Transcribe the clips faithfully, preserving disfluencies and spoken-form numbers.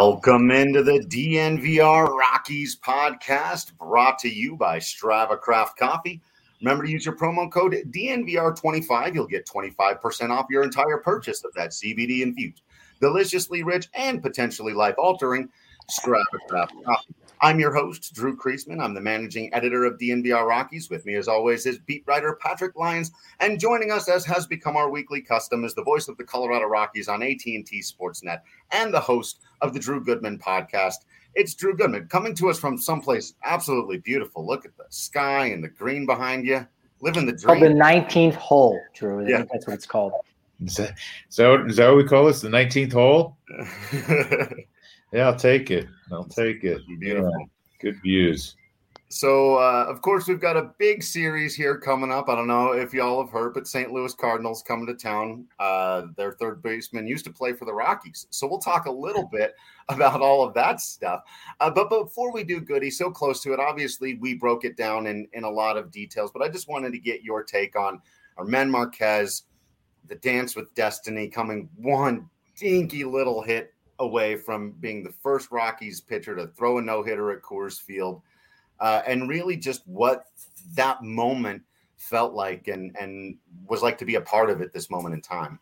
Welcome into the D N V R Rockies podcast, brought to you by Strava Craft Coffee. Remember to use your promo code D N V R twenty-five. You'll get twenty-five percent off your entire purchase of that C B D-infused, deliciously rich, and potentially life-altering Strava Craft Coffee. I'm your host, Drew Kreisman. I'm the managing editor of D N V R Rockies. With me, as always, is beat writer Patrick Lyons. And joining us, as has become our weekly custom, is the voice of the Colorado Rockies on A T and T Sportsnet and the host of the Drew Goodman podcast. It's Drew Goodman, coming to us from someplace absolutely beautiful. Look at the sky and the green behind you. Living the dream. Oh, the nineteenth hole, Drew. I yeah. think that's what it's called. Is that, is, that, is that what we call this, the nineteenth hole? Yeah, I'll take it. I'll take it. Beautiful. Yeah, good views. So, uh, of course, we've got a big series here coming up. I don't know if y'all have heard, but Saint Louis Cardinals coming to town. Uh, their third baseman used to play for the Rockies. So we'll talk a little bit about all of that stuff. Uh, but before we do, Goody, so close to it, obviously we broke it down in, in a lot of details, but I just wanted to get your take on Germán Márquez, the dance with destiny, coming one dinky little hit away from being the first Rockies pitcher to throw a no-hitter at Coors Field, uh, and really just what that moment felt like and, and was like to be a part of it this moment in time.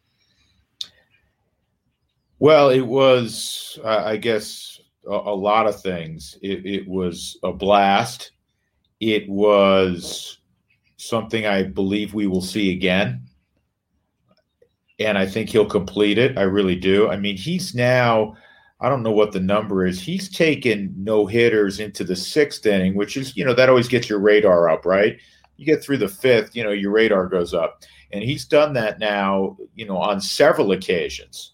Well, it was, uh, I guess, a, a lot of things. It, it was a blast. It was something I believe we will see again. And I think he'll complete it. I really do. I mean, he's now, I don't know what the number is. He's taken no-hitters into the sixth inning, which is, you know, that always gets your radar up, right? You get through the fifth, you know, your radar goes up. And he's done that now, you know, on several occasions.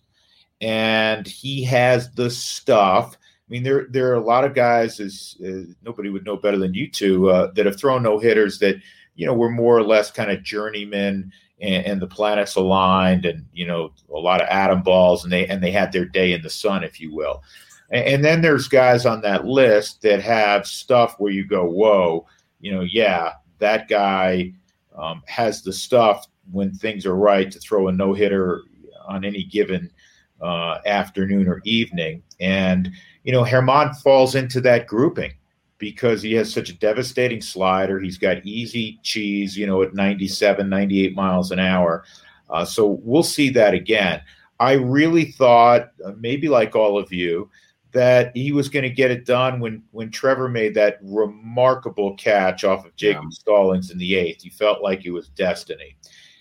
And he has the stuff. I mean, there there are a lot of guys, as uh, nobody would know better than you two, uh, that have thrown no-hitters that, you know, were more or less kind of journeymen, and, and the planets aligned, and, you know, a lot of atom balls, and they and they had their day in the sun, if you will. And, and then there's guys on that list that have stuff where you go, whoa, you know, yeah, that guy um, has the stuff when things are right to throw a no-hitter on any given uh, afternoon or evening. And, you know, Germán falls into that grouping, because he has such a devastating slider. He's got easy cheese, you know, at ninety-seven, ninety-eight miles an hour. Uh, so we'll see that again. I really thought, uh, maybe like all of you, that he was going to get it done when when Trevor made that remarkable catch off of Jacob yeah. Stallings in the eighth. He felt like it was destiny.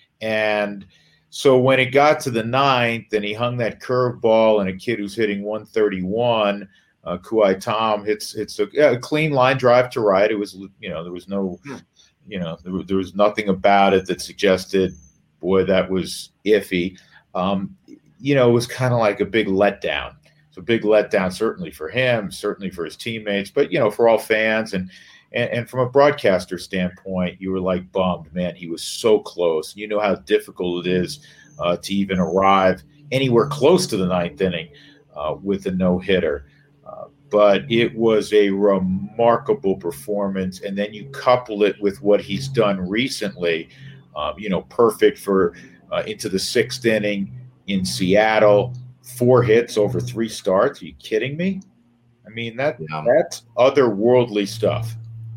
And so when it got to the ninth and he hung that curveball and a kid who's hitting one thirty-one, Uh, Kuai Tom hits hits a, a clean line drive to right. It was, you know, there was no, you know, there, was- there was nothing about it that suggested, boy, that was iffy. Um, you know, it was kind of like a big letdown. It's a big letdown, certainly for him, certainly for his teammates, but, you know, for all fans. And, and, and from a broadcaster standpoint, you were like bummed, man, he was so close. You know how difficult it is uh, to even arrive anywhere close to the ninth inning uh, with a no-hitter. Uh, but it was a remarkable performance. And then you couple it with what he's done recently, um, you know, perfect for uh, into the sixth inning in Seattle, four hits over three starts. Are you kidding me? I mean, that yeah. that's otherworldly stuff.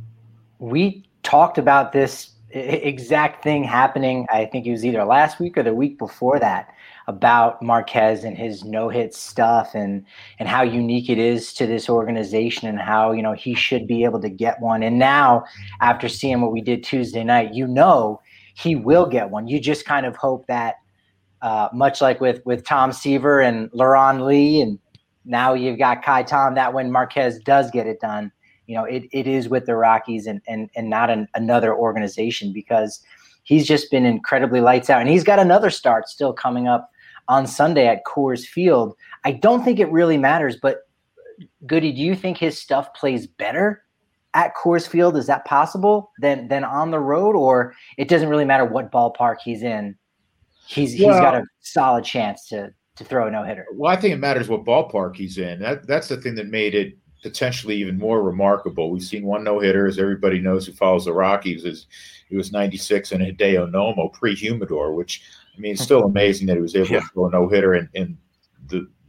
We talked about this exact thing happening, I think it was either last week or the week before that, about Márquez and his no-hit stuff and and how unique it is to this organization and how, you know, he should be able to get one. And now, after seeing what we did Tuesday night, you know he will get one. You just kind of hope that, uh, much like with, with Tom Seaver and Laron Lee, and now you've got Kai Tom, that when Márquez does get it done, you know, it, it is with the Rockies and and, and not an, another organization, because he's just been incredibly lights out. And he's got another start still coming up on Sunday at Coors Field. I don't think it really matters, but Goody, do you think his stuff plays better at Coors Field? Is that possible than than on the road, or it doesn't really matter what ballpark he's in? He's well, he's got a solid chance to to throw a no-hitter. Well, I think it matters what ballpark he's in. That that's the thing that made it potentially even more remarkable. We've seen one no-hitter, as everybody knows who follows the Rockies, is it was ninety-six in Hideo Nomo pre-Humidor, which, I mean, it's still amazing that he was able yeah. to throw a no-hitter in, in the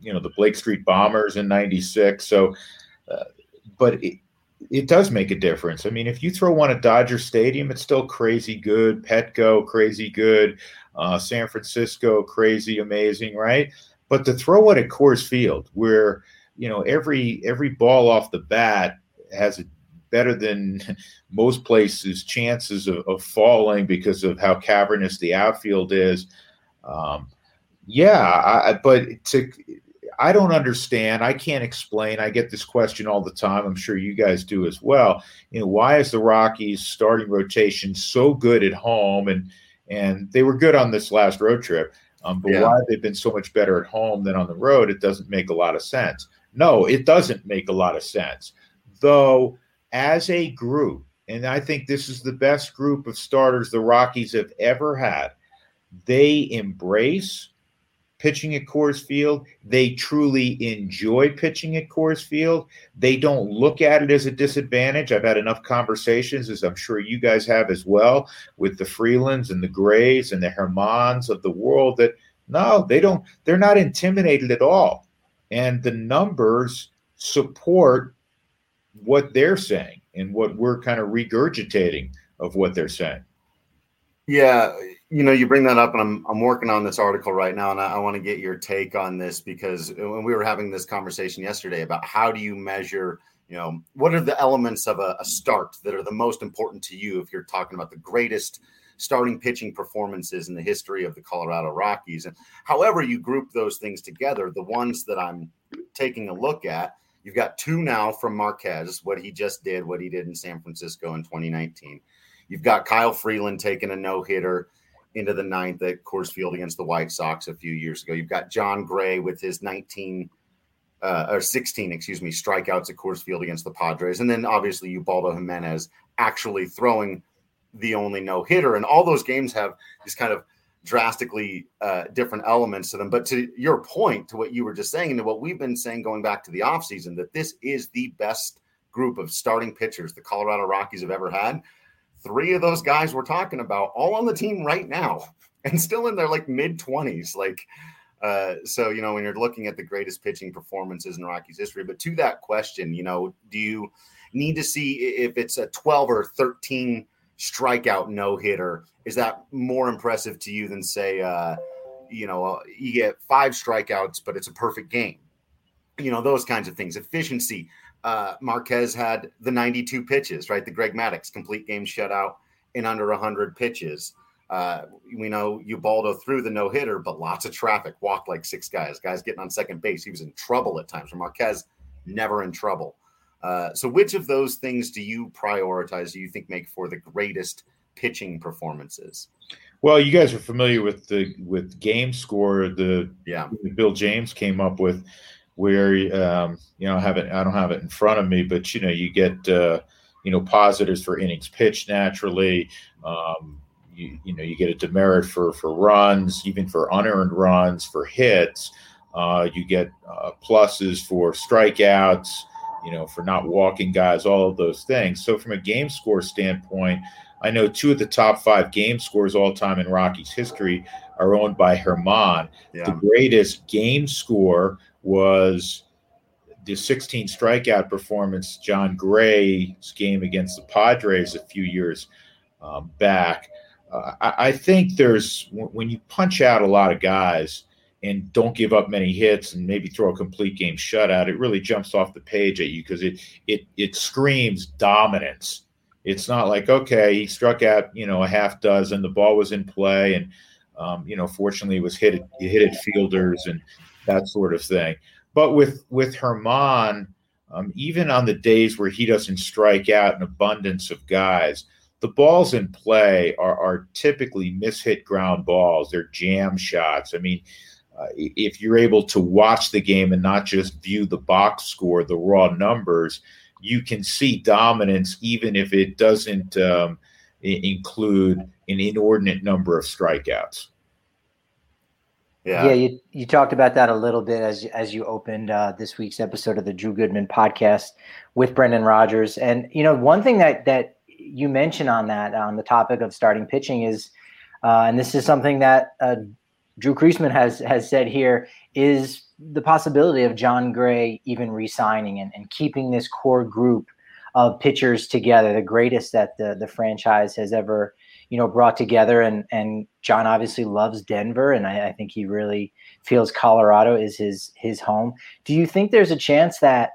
you know, the Blake Street Bombers in ninety-six. So, uh, but it, it does make a difference. I mean, if you throw one at Dodger Stadium, it's still crazy good. Petco, crazy good. Uh, San Francisco, crazy, amazing, right? But to throw it at Coors Field, where, you know, every every ball off the bat has a better than most places chances of, of falling because of how cavernous the outfield is. Um, yeah, I, but to I don't understand. I can't explain. I get this question all the time. I'm sure you guys do as well. You know, why is the Rockies starting rotation so good at home? And and they were good on this last road trip. Um, but yeah. why they've been so much better at home than on the road, it doesn't make a lot of sense. No, it doesn't make a lot of sense. Though, as a group, and I think this is the best group of starters the Rockies have ever had, they embrace pitching at Coors Field. They truly enjoy pitching at Coors Field. They don't look at it as a disadvantage. I've had enough conversations, as I'm sure you guys have as well, with the Freelands and the Grays and the Hermans of the world, that no, they don't, they're not intimidated at all. And the numbers support what they're saying and what we're kind of regurgitating of what they're saying. Yeah, you know, you bring that up, and I'm I'm working on this article right now, and I, I want to get your take on this, because when we were having this conversation yesterday about how do you measure, you know, what are the elements of a, a start that are the most important to you if you're talking about the greatest starting pitching performances in the history of the Colorado Rockies. And however you group those things together, the ones that I'm taking a look at, you've got two now from Marquez, what he just did, what he did in San Francisco in twenty nineteen. You've got Kyle Freeland taking a no-hitter into the ninth at Coors Field against the White Sox a few years ago. You've got John Gray with his nineteen uh, or sixteen, excuse me, strikeouts at Coors Field against the Padres. And then obviously Ubaldo Jimenez actually throwing the only no-hitter. And all those games have these kind of drastically uh, different elements to them. But to your point, to what you were just saying, and to what we've been saying going back to the offseason, that this is the best group of starting pitchers the Colorado Rockies have ever had. Three of those guys we're talking about all on the team right now and still in their like mid twenties. Like, uh, so, you know, when you're looking at the greatest pitching performances in Rockies history, but to that question, you know, do you need to see if it's a twelve or thirteen strikeout no hitter? Is that more impressive to you than say, uh, you know, you get five strikeouts, but it's a perfect game, you know, those kinds of things, efficiency. Uh, Marquez had the ninety-two pitches, right? The Greg Maddux complete game shutout in under one hundred pitches. Uh, we know Ubaldo threw the no-hitter, but lots of traffic, walked like six guys, guys getting on second base. He was in trouble at times. Marquez, never in trouble. Uh, so which of those things do you prioritize, do you think make for the greatest pitching performances? Well, you guys are familiar with the with game score, the yeah. Bill James came up with, where, um, you know, I have it, I don't have it in front of me, but, you know, you get, uh, you know, positives for innings pitched naturally. Um, you, you know, you get a demerit for, for runs, even for unearned runs, for hits. Uh, you get uh, pluses for strikeouts, you know, for not walking guys, all of those things. So from a game score standpoint, I know two of the top five game scores all time in Rockies history are owned by Herman. Yeah. The greatest game score was the sixteen strikeout performance, John Gray's game against the Padres a few years um, back. Uh, I, I think there's, when you punch out a lot of guys and don't give up many hits and maybe throw a complete game shutout, it really jumps off the page at you, because it it it screams dominance. It's not like, okay, he struck out, you know, a half dozen, the ball was in play, and um, you know, fortunately, it was hit at, it hit at fielders and that sort of thing. But with with Herman, um, even on the days where he doesn't strike out an abundance of guys, the balls in play are, are typically mishit ground balls. They're jam shots. I mean, uh, if you're able to watch the game and not just view the box score, the raw numbers, you can see dominance, even if it doesn't um, include an inordinate number of strikeouts. Yeah, yeah you, you talked about that a little bit as as you opened uh, this week's episode of the Drew Goodman podcast with Brendan Rodgers. And, you know, one thing that that you mentioned on that, on the topic of starting pitching is, uh, and this is something that uh, Drew Creasman has has said here is the possibility of Jon Gray even re-signing and, and keeping this core group of pitchers together, the greatest that the the franchise has ever, you know, brought together. And and John obviously loves Denver, and I, I think he really feels Colorado is his his home. Do you think there's a chance that,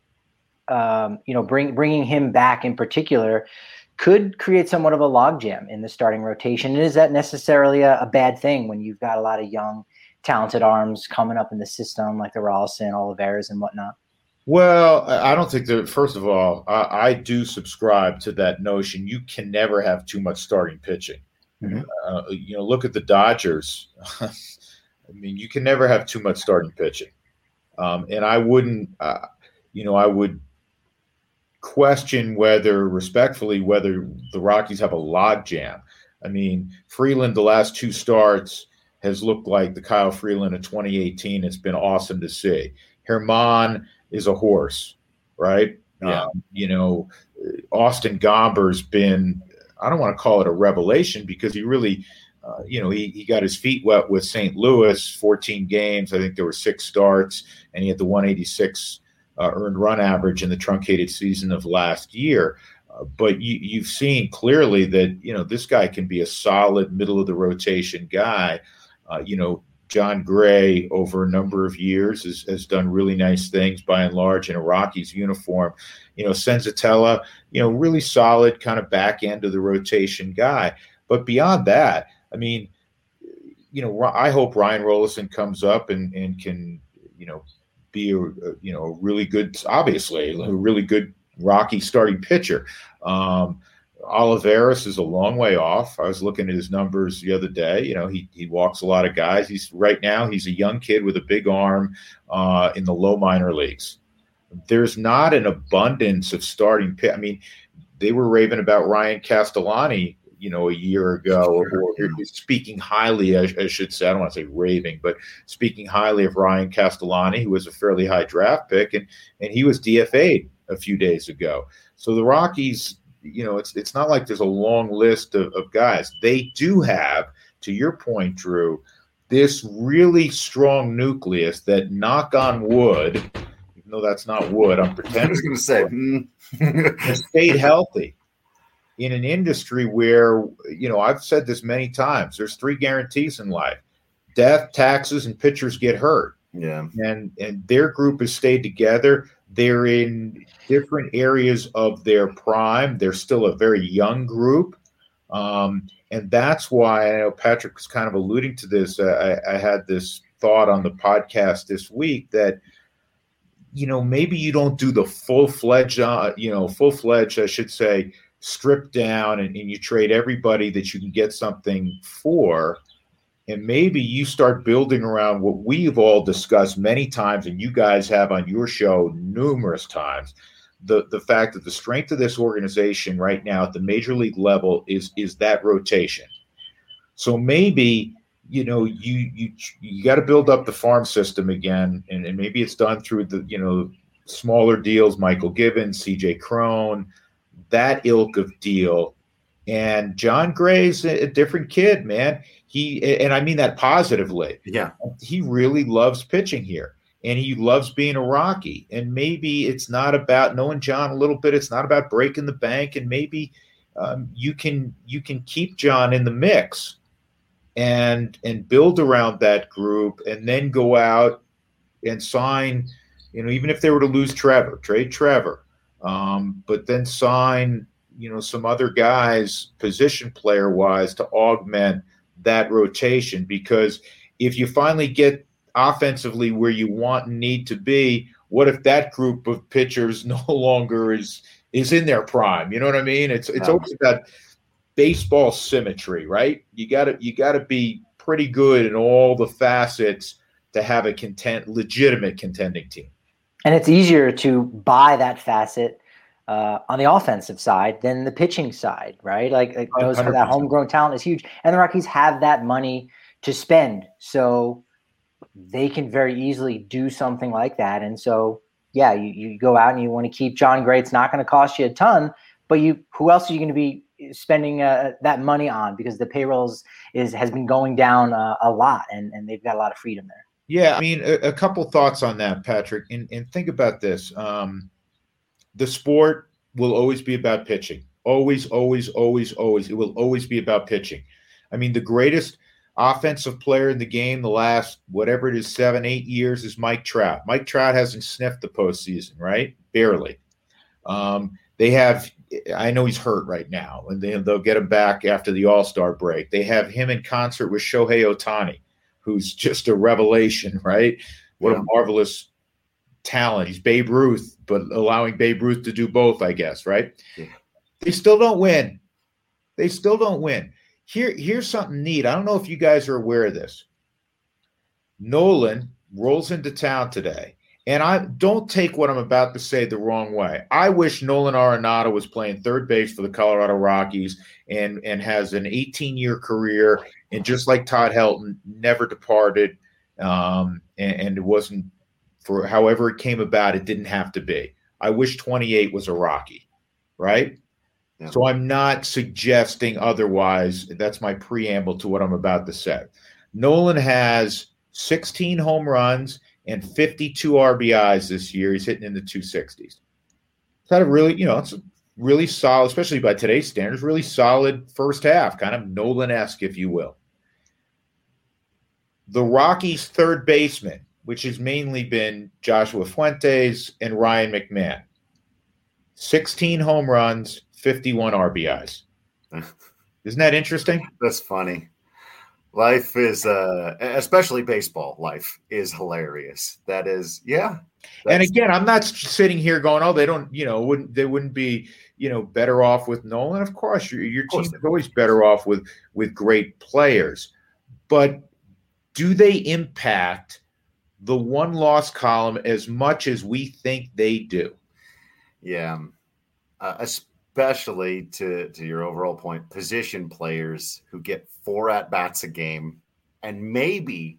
um, you know, bring bringing him back in particular could create somewhat of a logjam in the starting rotation? And is that necessarily a, a bad thing when you've got a lot of young, talented arms coming up in the system like the Rolison, Olivares, and whatnot? Well, I don't think that, first of all, I, I do subscribe to that notion. You can never have too much starting pitching. Mm-hmm. Uh, you know, look at the Dodgers. I mean, you can never have too much starting pitching. Um, and I wouldn't, uh, you know, I would question whether, respectfully, whether the Rockies have a logjam. I mean, Freeland, the last two starts, has looked like the Kyle Freeland of twenty eighteen. It's been awesome to see. Herman is a horse, right? Yeah. Um, you know, Austin Gomber's been, I don't want to call it a revelation because he really, uh, you know, he, he got his feet wet with Saint Louis, fourteen games. I think there were six starts, and he had the one eighty-six Uh, earned run average in the truncated season of last year. Uh, but you, you've seen clearly that, you know, this guy can be a solid middle of the rotation guy. Uh, you know, Jon Gray over a number of years has, has done really nice things by and large in a Rockies uniform. You know, Senzatella, you know, really solid kind of back end of the rotation guy. But beyond that, I mean, you know, I hope Ryan Rolison comes up and, and can, you know, be a, you know, a really good, obviously a really good Rocky starting pitcher. Um, Olivares is a long way off. I was looking at his numbers the other day. You know, he he walks a lot of guys. He's right now he's a young kid with a big arm uh, in the low minor leagues. There's not an abundance of starting pitch. I mean, they were raving about Ryan Castellani, you know, a year ago, or, or speaking highly, I, I should say, I don't want to say raving, but speaking highly of Ryan Castellani, who was a fairly high draft pick, and and he was D F A'd a few days ago. So the Rockies, you know, it's it's not like there's a long list of, of guys. They do have, to your point, Drew, this really strong nucleus that, knock on wood, even though that's not wood, I'm pretending. I was going to say, mm. has stayed healthy. In an industry where, you know, I've said this many times, there's three guarantees in life: death, taxes, and pitchers get hurt. Yeah. And and their group has stayed together. They're in different areas of their prime. They're still a very young group. Um, and that's why, I know Patrick was kind of alluding to this. Uh, I, I had this thought on the podcast this week that, you know, maybe you don't do the full-fledged, uh, you know, full-fledged, I should say, stripped down and, and you trade everybody that you can get something for. And maybe you start building around what we've all discussed many times, and you guys have on your show numerous times, the, the fact that the strength of this organization right now at the major league level is, is that rotation. So maybe, you know, you, you, you got to build up the farm system again. And, and maybe it's done through the, you know, smaller deals, Michael Gibbons, C J Cron, that ilk of deal. And Jon Gray's a, a different kid, man. He, and I mean that positively. Yeah. He really loves pitching here, and he loves being a Rocky. And maybe it's not about, knowing John a little bit, it's not about breaking the bank. And maybe um, you can, you can keep John in the mix and, and build around that group, and then go out and sign, you know, even if they were to lose Trevor, trade Trevor, Um, but then sign, you know, some other guys position player wise to augment that rotation. Because if you finally get offensively where you want and need to be, what if that group of pitchers no longer is is in their prime? You know what I mean? It's it's always about baseball symmetry, right? You gotta you gotta be pretty good in all the facets to have a content legitimate contending team. And it's easier to buy that facet uh, on the offensive side than the pitching side, right? Like, like those for that homegrown talent is huge. And the Rockies have that money to spend. So they can very easily do something like that. And so, yeah, you, you go out and you want to keep Jon Gray. It's not going to cost you a ton, but you, who else are you going to be spending uh, that money on, because the payrolls is has been going down uh, a lot, and, and they've got a lot of freedom there. Yeah, I mean, a, a couple thoughts on that, Patrick. And, and think about this. Um, the sport will always be about pitching. Always, always, always, always. It will always be about pitching. I mean, the greatest offensive player in the game the last, whatever it is, seven, eight years is Mike Trout. Mike Trout hasn't sniffed the postseason, right? Barely. Um, they have, I know he's hurt right now, and they, they'll get him back after the All-Star break. They have him in concert with Shohei Ohtani, who's just a revelation, right? What yeah. a marvelous talent. He's Babe Ruth, but allowing Babe Ruth to do both, I guess, right? Yeah. They still don't win. They still don't win. Here, here's something neat. I don't know if you guys are aware of this. Nolan rolls into town today, and I don't take what I'm about to say the wrong way. I wish Nolan Arenado was playing third base for the Colorado Rockies and, and has an eighteen-year career, and just like Todd Helton, never departed, um, and, and it wasn't for however it came about, it didn't have to be. I wish twenty-eight was a Rocky, right? Yeah. So I'm not suggesting otherwise. That's my preamble to what I'm about to say. Nolan has sixteen home runs and fifty-two R B Is this year. He's hitting in the two sixties. It's had a really, you know, it's a really solid, especially by today's standards, really solid first half, kind of Nolan-esque, if you will. The Rockies' third baseman, which has mainly been Joshua Fuentes and Ryan McMahon, sixteen home runs, fifty-one R B Is. Isn't that interesting? That's funny. Life is, uh, especially baseball life, is hilarious. That is, yeah. And again, I'm not sitting here going, oh, they don't, you know, wouldn't they wouldn't be, you know, better off with Nolan? Of course, your, your team is always better off with with great players. But do they impact the one-loss column as much as we think they do? Yeah. Uh, especially to, to your overall point, position players who get four at-bats a game, and maybe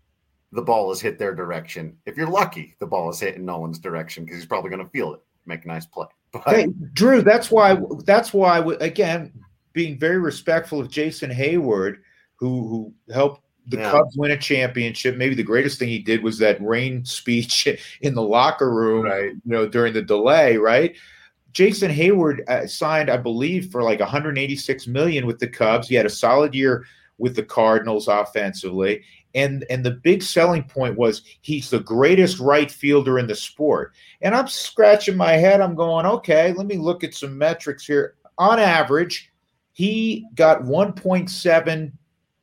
the ball is hit their direction. If you're lucky, the ball is hit in Nolan's direction because he's probably going to feel it, make a nice play. But hey, Drew, that's why, that's why, again, being very respectful of Jason Hayward, who, who helped the yeah. Cubs win a championship. Maybe the greatest thing he did was that rain speech in the locker room, right. you know, during the delay, right? Jason Hayward uh, signed, I believe, for like one hundred eighty-six million dollars with the Cubs. He had a solid year with the Cardinals offensively. And, and the big selling point was he's the greatest right fielder in the sport. And I'm scratching my head. I'm going, okay, let me look at some metrics here. On average, he got one point seven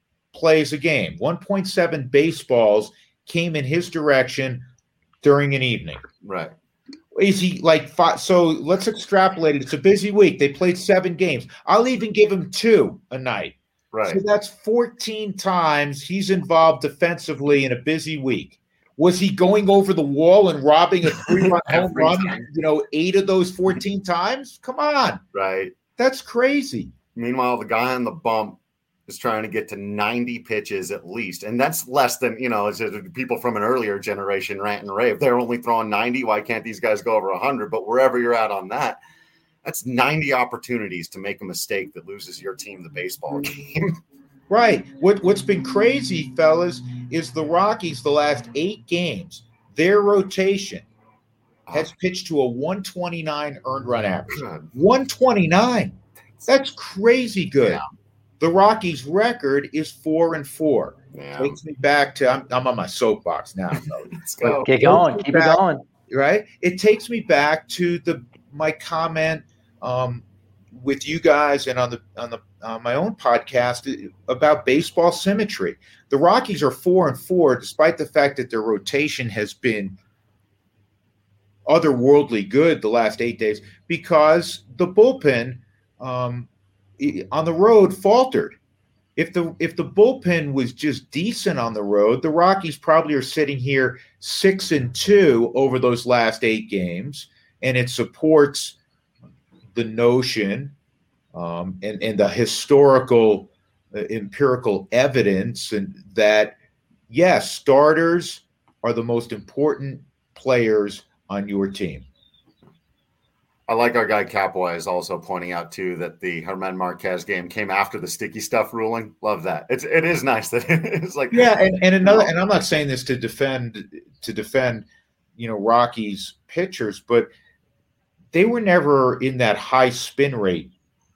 plays a game. one point seven baseballs came in his direction during an evening. Right. Is he like five? So let's extrapolate it. It's a busy week. They played seven games. I'll even give him two a night. Right. So that's fourteen times he's involved defensively in a busy week. Was he going over the wall and robbing a three-run home run, you know, eight of those fourteen times? Come on. Right. That's crazy. Meanwhile, the guy on the bump is trying to get to ninety pitches at least. And that's less than, you know, it's people from an earlier generation rant and rave. They're only throwing ninety. Why can't these guys go over one hundred? But wherever you're at on that, that's ninety opportunities to make a mistake that loses your team the baseball game. Right. What, what's been crazy, fellas, is the Rockies the last eight games, their rotation has pitched to a one twenty-nine earned run average. one twenty-nine. That's crazy good. Yeah. The Rockies' record is four and four. Yeah. Takes me back to I'm, I'm on my soapbox now. Let's go. Get going. Keep back, it going. Right. It takes me back to the my comment um, with you guys and on the on the on my own podcast about baseball symmetry. The Rockies are four and four, despite the fact that their rotation has been otherworldly good the last eight days, because the bullpen um, on the road faltered. If the if the bullpen was just decent on the road, the Rockies probably are sitting here six and two over those last eight games, and it supports the notion um, and and the historical uh, empirical evidence and that yes, starters are the most important players on your team. I like our guy Capwise also pointing out too that the German Marquez game came after the sticky stuff ruling. Love that. It's it is nice that it's like yeah, and, and another and I'm not saying this to defend to defend, you know, Rockies pitchers, but they were never in that high spin rate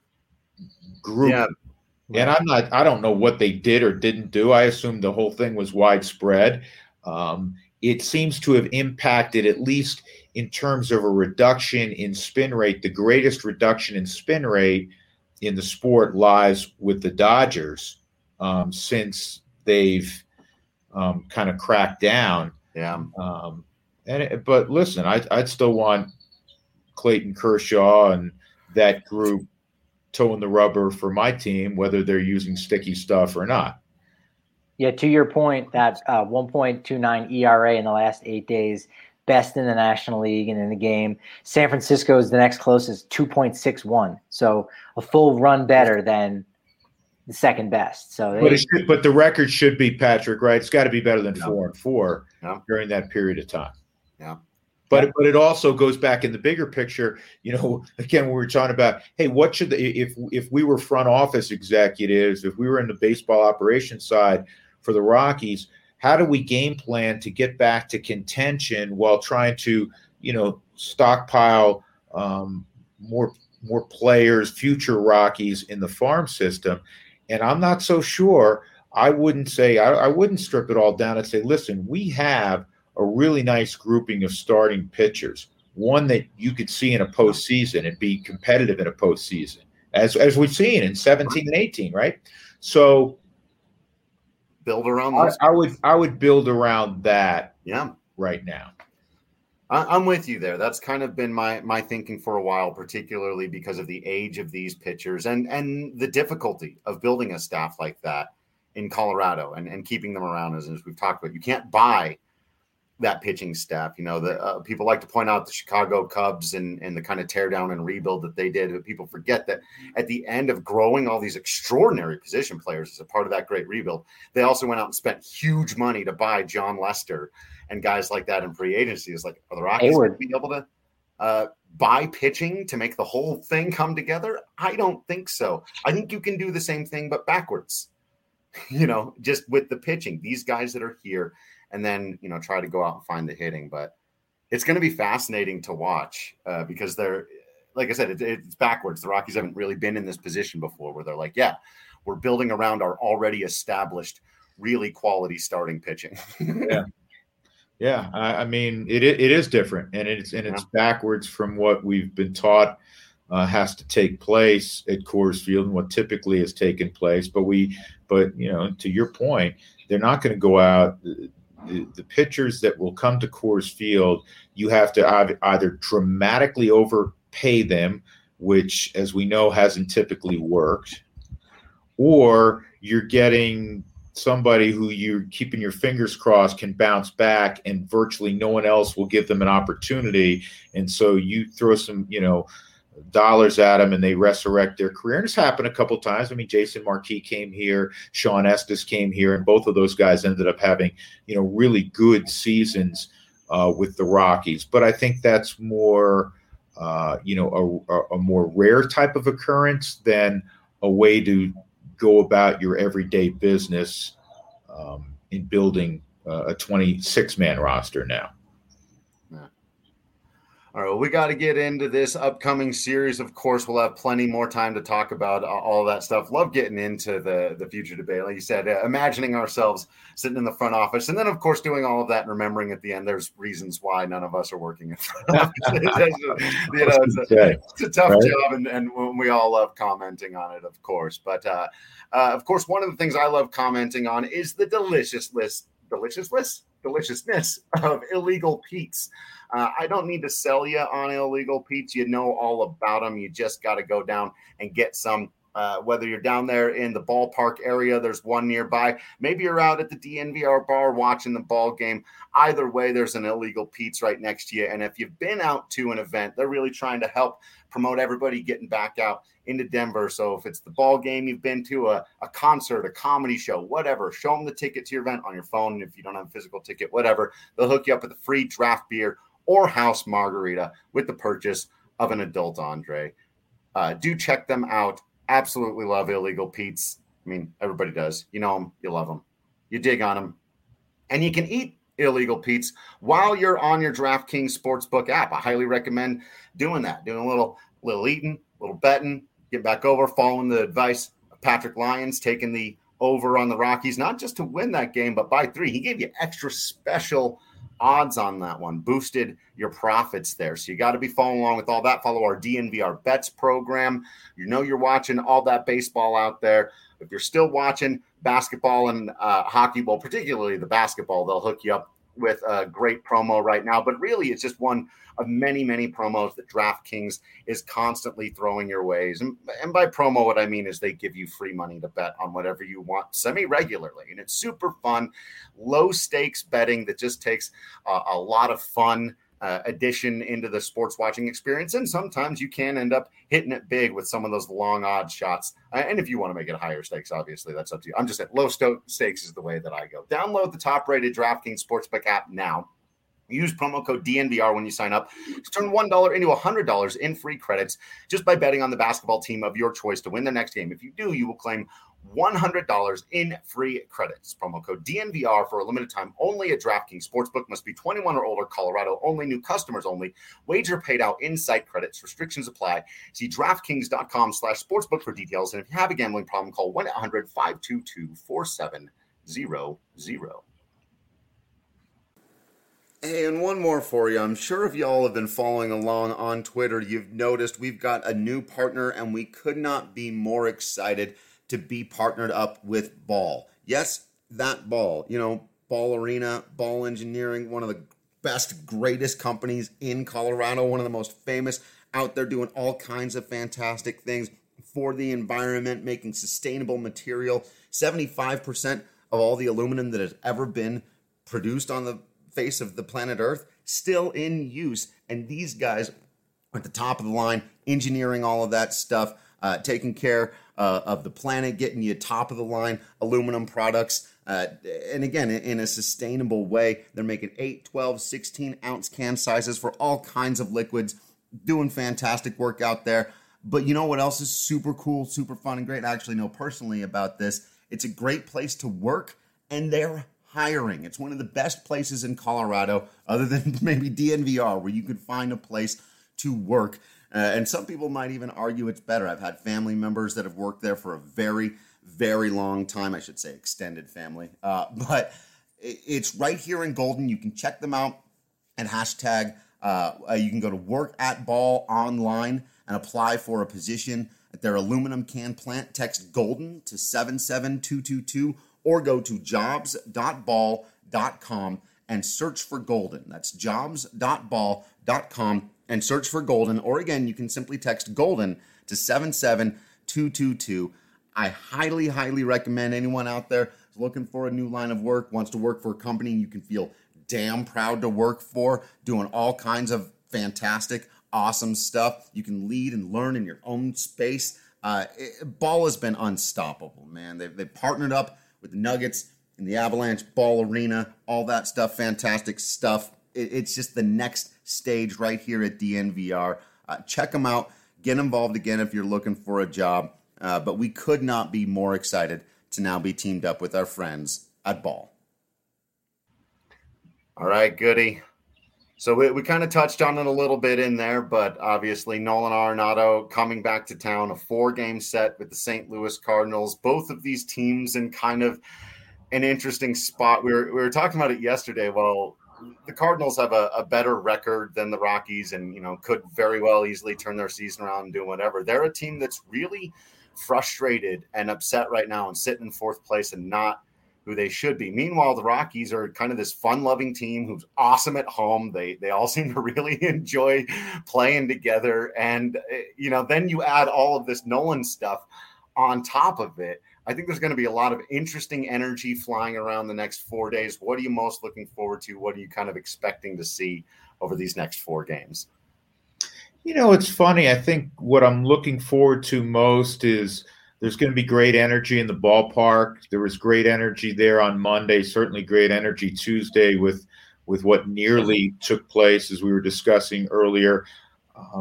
group. Yeah. And I'm not I don't know what they did or didn't do. I assume the whole thing was widespread. Um, it seems to have impacted, at least in terms of a reduction in spin rate. The greatest reduction in spin rate in the sport lies with the Dodgers um, since they've um, kind of cracked down. Yeah. Um, and it, but listen, I, I'd still want Clayton Kershaw and that group toeing the rubber for my team, whether they're using sticky stuff or not. Yeah, to your point, that uh, one point two nine E R A in the last eight days, best in the National League and in the game. San Francisco is the next closest, two point six one. So a full run better than the second best. So, they, but, it should, but the record should be, Patrick, right? It's got to be better than yeah. four and four yeah. during that period of time. Yeah. But yeah. but it also goes back in the bigger picture. You know, again, we were talking about, hey, what should the, if if we were front office executives, if we were in the baseball operations side for the Rockies, how do we game plan to get back to contention while trying to, you know, stockpile um, more more players, future Rockies in the farm system? And I'm not so sure. I wouldn't say I, I wouldn't strip it all down and say, listen, we have a really nice grouping of starting pitchers, one that you could see in a postseason and be competitive in a postseason, as as we've seen in seventeen and eighteen, right? So build around I, those. I would I would build around that. Yeah, right now. I, I'm with you there. That's kind of been my my thinking for a while, particularly because of the age of these pitchers and and the difficulty of building a staff like that in Colorado and, and keeping them around. As, as we've talked about, you can't buy that pitching staff. You know, the uh, people like to point out the Chicago Cubs and, and the kind of tear down and rebuild that they did, but people forget that at the end of growing all these extraordinary position players as a part of that great rebuild, they also went out and spent huge money to buy John Lester and guys like that in free agency. Is like, are the Rockies going to be able to uh, buy pitching to make the whole thing come together? I don't think so. I think you can do the same thing, but backwards, you know, just with the pitching, these guys that are here, and then, you know, try to go out and find the hitting. But it's going to be fascinating to watch uh, because they're, like I said, it, it's backwards. The Rockies haven't really been in this position before where they're like, yeah, we're building around our already established, really quality starting pitching. yeah. Yeah. I, I mean, it it is different, and it's, and it's yeah. backwards from what we've been taught uh, has to take place at Coors Field and what typically has taken place. But we, but, you know, to your point, they're not going to go out. The, the pitchers that will come to Coors Field, you have to either dramatically overpay them, which, as we know, hasn't typically worked, or you're getting somebody who you're keeping your fingers crossed can bounce back and virtually no one else will give them an opportunity. And so you throw some, you know, dollars at them and they resurrect their career. And it's happened a couple of times. I mean, Jason Marquis came here, Sean Estes came here, and both of those guys ended up having, you know, really good seasons uh, with the Rockies. But I think that's more, uh, you know, a, a more rare type of occurrence than a way to go about your everyday business um, in building uh, a twenty-six man roster now. All right, well, we got to get into this upcoming series. Of course, we'll have plenty more time to talk about all that stuff. Love getting into the, the future debate. Like you said, uh, imagining ourselves sitting in the front office. And then, of course, doing all of that and remembering at the end there's reasons why none of us are working in front office. you know, it's, a, it's a tough right? job, and, and we all love commenting on it, of course. But, uh, uh, of course, one of the things I love commenting on is the delicious list, delicious list, deliciousness of illegal Pete's. Uh, I don't need to sell you on illegal Pete's. You know all about them. You just got to go down and get some. Uh, whether you're down there in the ballpark area, there's one nearby. Maybe you're out at the D N V R bar watching the ball game. Either way, there's an illegal Pete's right next to you. And if you've been out to an event, they're really trying to help promote everybody getting back out into Denver. So if it's the ball game you've been to, a, a concert, a comedy show, whatever, show them the ticket to your event on your phone. And if you don't have a physical ticket, whatever, they'll hook you up with a free draft beer or house margarita with the purchase of an adult Andre. Uh, do check them out. Absolutely love Illegal Pete's. I mean, everybody does. You know them, you love them, you dig on them, and you can eat Illegal Pete's while you're on your DraftKings Sportsbook app. I highly recommend doing that, doing a little, little eating, a little betting, get back over, following the advice of Patrick Lyons, taking the over on the Rockies, not just to win that game, but by three. He gave you extra special odds on that one, boosted your profits there. So you got to be following along with all that. Follow our D N V R Bets program. You know you're watching all that baseball out there. If you're still watching basketball and uh, hockey, well, particularly the basketball, they'll hook you up with a great promo right now. But really, it's just one of many, many promos that DraftKings is constantly throwing your ways. And, and by promo, what I mean is they give you free money to bet on whatever you want semi-regularly. And it's super fun, low-stakes betting that just takes uh, a lot of fun uh, addition into the sports watching experience. And sometimes you can end up hitting it big with some of those long odd shots. Uh, and if you want to make it higher stakes, obviously, that's up to you. I'm just saying low sto- stakes is the way that I go. Download the top-rated DraftKings Sportsbook app now. Use promo code D N V R when you sign up to turn one dollar into one hundred dollars in free credits just by betting on the basketball team of your choice to win the next game. If you do, you will claim one hundred dollars in free credits. Promo code D N V R for a limited time only at DraftKings Sportsbook. Must be twenty-one or older. Colorado only. New customers only. Wager paid out in site credits. Restrictions apply. See DraftKings.com slash sportsbook for details. And if you have a gambling problem, call one eight hundred five two two four seven zero zero. Hey, and one more for you. I'm sure if y'all have been following along on Twitter, you've noticed we've got a new partner, and we could not be more excited to be partnered up with Ball. Yes, that Ball. You know, Ball Arena, Ball Engineering, one of the best, greatest companies in Colorado, one of the most famous out there doing all kinds of fantastic things for the environment, making sustainable material. seventy-five percent of all the aluminum that has ever been produced on the face of the planet Earth still in use, and these guys are at the top of the line, engineering all of that stuff, uh, taking care uh, of the planet, getting you top of the line aluminum products, uh, and again, in a sustainable way. They're making eight, twelve, sixteen ounce can sizes for all kinds of liquids, doing fantastic work out there. But you know what else is super cool, super fun, and great? I actually know personally about this. It's a great place to work, and they're hiring. It's one of the best places in Colorado, other than maybe D N V R, where you could find a place to work. Uh, and some people might even argue it's better. I've had family members that have worked there for a very, very long time. I should say extended family. Uh, but it's right here in Golden. You can check them out at hashtag. Uh, you can go to Work at Ball online and apply for a position at their aluminum can plant. Text Golden to seven seven two two two. Or go to jobs dot ball dot com and search for Golden. That's jobs dot ball dot com and search for Golden. Or again, you can simply text Golden to seven seven two two two. I highly, highly recommend anyone out there who's looking for a new line of work, wants to work for a company you can feel damn proud to work for, doing all kinds of fantastic, awesome stuff. You can lead and learn in your own space. Uh, it, Ball has been unstoppable, man. They've, they've partnered up with the Nuggets and the Avalanche, Ball Arena, all that stuff, fantastic stuff. It, it's just the next stage right here at D N V R. Uh, check them out. Get involved again if you're looking for a job. Uh, but we could not be more excited to now be teamed up with our friends at Ball. All right, goody. So we, we kind of touched on it a little bit in there, but obviously Nolan Arenado coming back to town, a four-game set with the Saint Louis Cardinals. Both of these teams in kind of an interesting spot. We were, we were talking about it yesterday. Well, the Cardinals have a, a better record than the Rockies and, you know, could very well easily turn their season around and do whatever. They're a team that's really frustrated and upset right now and sitting in fourth place and not who they should be. Meanwhile, the Rockies are kind of this fun-loving team who's awesome at home. They they all seem to really enjoy playing together. And, you know, then you add all of this Nolan stuff on top of it. I think there's going to be a lot of interesting energy flying around the next four days. What are you most looking forward to? What are you kind of expecting to see over these next four games? You know, it's funny. I think what I'm looking forward to most is there's going to be great energy in the ballpark. There was great energy there on Monday, certainly great energy Tuesday with with what nearly took place, as we were discussing earlier. Um,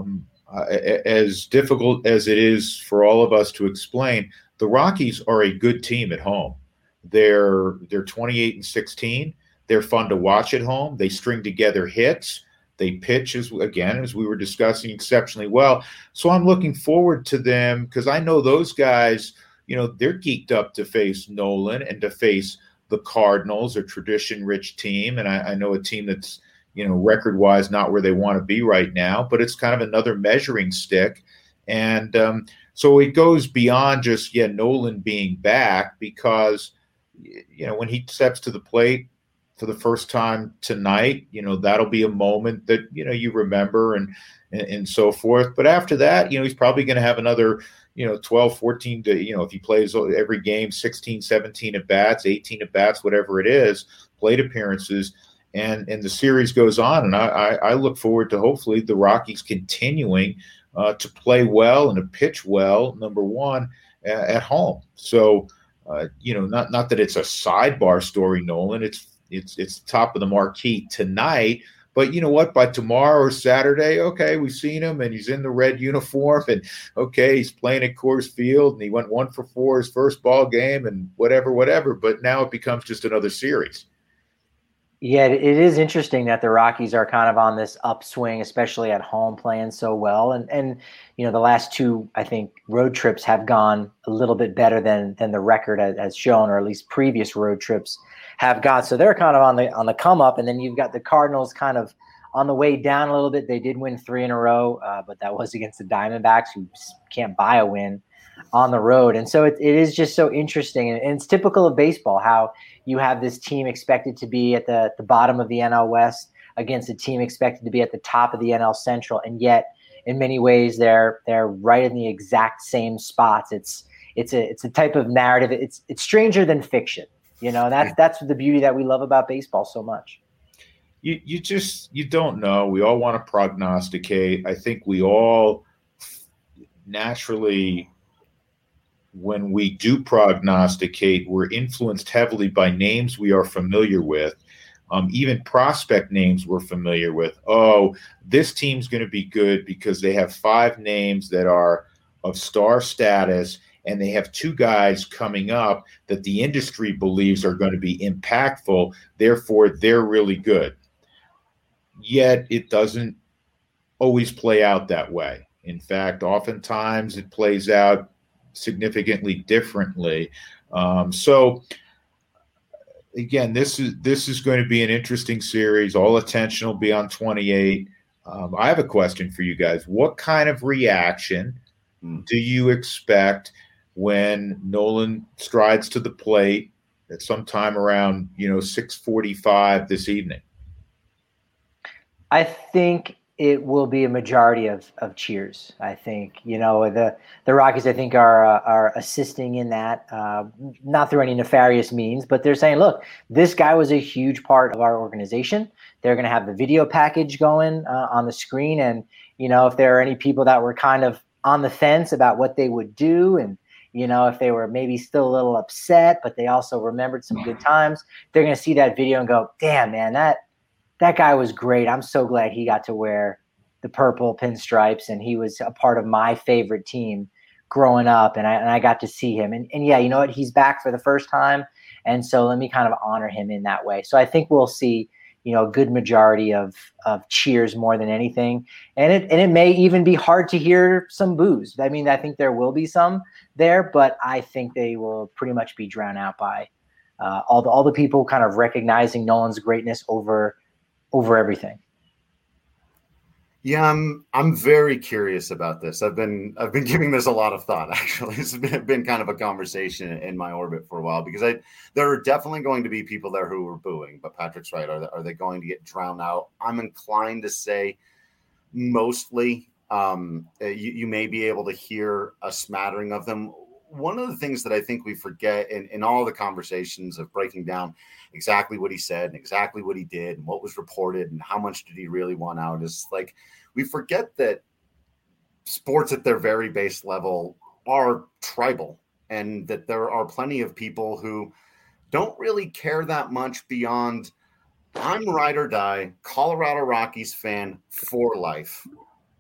uh, as difficult as it is for all of us to explain, the Rockies are a good team at home. They're they're twenty-eight and sixteen. They're fun to watch at home. They string together hits. They pitch, as again, as we were discussing, exceptionally well. So I'm looking forward to them because I know those guys, you know, they're geeked up to face Nolan and to face the Cardinals, a tradition-rich team. And I, I know a team that's, you know, record-wise not where they want to be right now, but it's kind of another measuring stick. And um, so it goes beyond just, yeah, Nolan being back because, you know, when he steps to the plate for the first time tonight, you know, that'll be a moment that, you know, you remember and, and, and so forth. But after that, you know, he's probably going to have another, you know, twelve, fourteen to, you know, if he plays every game, sixteen, seventeen at bats, eighteen at bats, whatever it is, plate appearances. And, and the series goes on. And I, I, I look forward to hopefully the Rockies continuing uh, to play well and to pitch well, number one, uh, at home. So, uh, you know, not, not that it's a sidebar story, Nolan, it's, It's it's top of the marquee tonight, but you know what? By tomorrow or Saturday, okay, we've seen him and he's in the red uniform, and okay, he's playing at Coors Field and he went one for four his first ball game and whatever, whatever. But now it becomes just another series. Yeah, it is interesting that the Rockies are kind of on this upswing, especially at home, playing so well. And and you know, the last two, I think, road trips have gone a little bit better than than the record has shown, or at least previous road trips have gone. So they're kind of on the on the come up. And then you've got the Cardinals kind of on the way down a little bit. They did win three in a row, uh, but that was against the Diamondbacks, who can't buy a win on the road. And so it, it is just so interesting. And, and it's typical of baseball how you have this team expected to be at the, the bottom of the N L West against a team expected to be at the top of the N L Central. And yet in many ways they're they're right in the exact same spots. It's it's a it's a type of narrative. It's it's stranger than fiction. You know, that's that's the beauty that we love about baseball so much. You you just you don't know. We all want to prognosticate. I think we all naturally, when we do prognosticate, we're influenced heavily by names we are familiar with, um, even prospect names we're familiar with. Oh, this team's going to be good because they have five names that are of star status, and they have two guys coming up that the industry believes are going to be impactful. Therefore, they're really good. Yet it doesn't always play out that way. In fact, oftentimes it plays out significantly differently. Um, so again, this is this is going to be an interesting series. All attention will be on twenty-eight. Um, I have a question for you guys. What kind of reaction mm. do you expect when Nolan strides to the plate at some time around, you know, six forty-five this evening? I think it will be a majority of, of cheers. I think, you know, the, the Rockies, I think, are uh, are assisting in that, uh, not through any nefarious means, but they're saying, look, this guy was a huge part of our organization. They're going to have the video package going uh, on the screen. And, you know, if there are any people that were kind of on the fence about what they would do, and, you know, if they were maybe still a little upset, but they also remembered some good times, they're going to see that video and go, damn, man, that, that guy was great. I'm so glad he got to wear the purple pinstripes, and he was a part of my favorite team growing up, and I, and I got to see him. And, and yeah, you know what? He's back for the first time, and so let me kind of honor him in that way. So I think we'll see, you know, a good majority of of cheers more than anything. And it and it may even be hard to hear some boos. I mean, I think there will be some there, but I think they will pretty much be drowned out by uh, all the all the people kind of recognizing Nolan's greatness over over everything. Yeah, I'm I'm very curious about this. I've been I've been giving this a lot of thought, actually. It's been, been kind of a conversation in my orbit for a while, because I there are definitely going to be people there who are booing, but Patrick's right. Are they, are they going to get drowned out? I'm inclined to say mostly. Um, you, you may be able to hear a smattering of them. One of the things that I think we forget in, in all the conversations of breaking down exactly what he said and exactly what he did and what was reported and how much did he really want out is, like, we forget that sports at their very base level are tribal, and that there are plenty of people who don't really care that much beyond, I'm ride or die Colorado Rockies fan for life.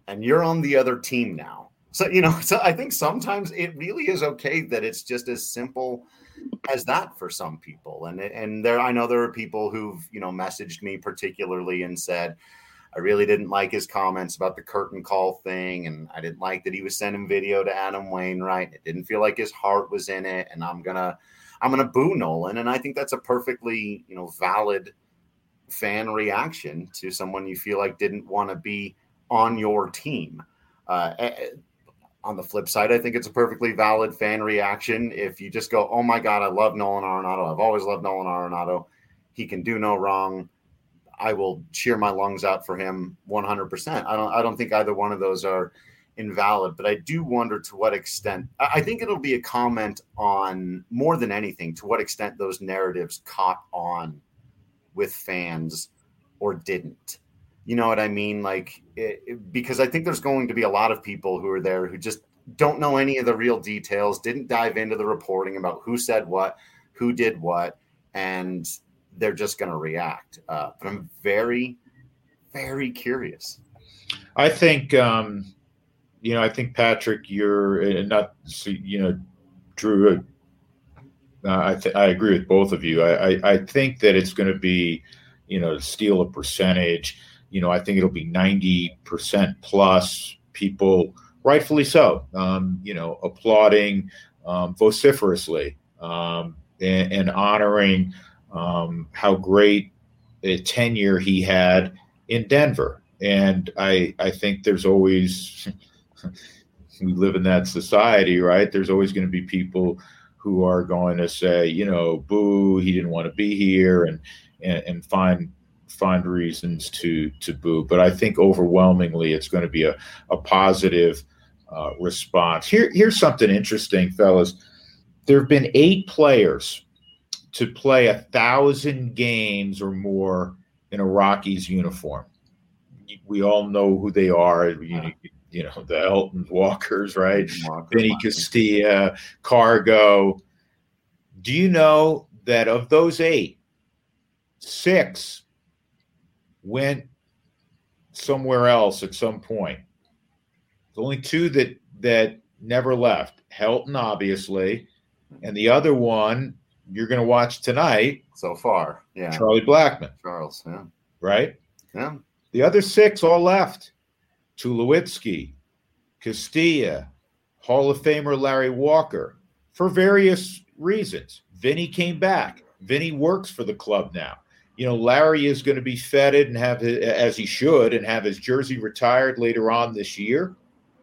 and you're on the other team now. So, you know, so I think sometimes it really is okay that it's just as simple as that for some people. And, and there, I know there are people who've, you know, messaged me particularly and said, I really didn't like his comments about the curtain call thing. And I didn't like that he was sending video to Adam Wainwright. It didn't feel like his heart was in it. And I'm going to, I'm going to boo Nolan. And I think that's a perfectly, you know, valid fan reaction to someone you feel like didn't want to be on your team. Uh, On the flip side, I think it's a perfectly valid fan reaction if you just go, oh, my God, I love Nolan Arenado. I've always loved Nolan Arenado. He can do no wrong. I will cheer my lungs out for him one hundred percent. I don't I don't think either one of those are invalid, but I do wonder to what extent – I think it'll be a comment on, more than anything, to what extent those narratives caught on with fans or didn't. You know what I mean? Like, it, it, because I think there's going to be a lot of people who are there who just don't know any of the real details, didn't dive into the reporting about who said what, who did what, and they're just going to react. Uh, but I'm very, very curious. I think, um, you know, I think, Patrick, you're uh, not, you know, Drew, uh, I, th- I agree with both of you. I, I, I think that it's going to be, you know, to steal a percentage. You know, I think it'll be ninety percent plus people, rightfully so, um, you know, applauding um, vociferously um, and, and honoring um, how great a tenure he had in Denver. And I, I think there's always, we live in that society, right? There's always going to be people who are going to say, you know, boo, he didn't want to be here, and and, and find find reasons to to boo. But I think overwhelmingly it's going to be a, a positive uh, response. Here, here's something interesting, fellas. There have been eight players to play a thousand games or more in a Rockies uniform. We all know who they are. You, you know, the Elton Walkers, right? Walker, Vinny Castilla, Cargo. Do you know that of those eight, six went somewhere else at some point? There's only two that that never left. Helton, obviously, and the other one you're going to watch tonight. So far, yeah. Charlie Blackmon. Charles, yeah. Right? Yeah. The other six all left. Tulowitzki, Castilla, Hall of Famer Larry Walker, for various reasons. Vinny came back. Vinny works for the club now. You know, Larry is going to be feted and have, his, as he should, and have his jersey retired later on this year.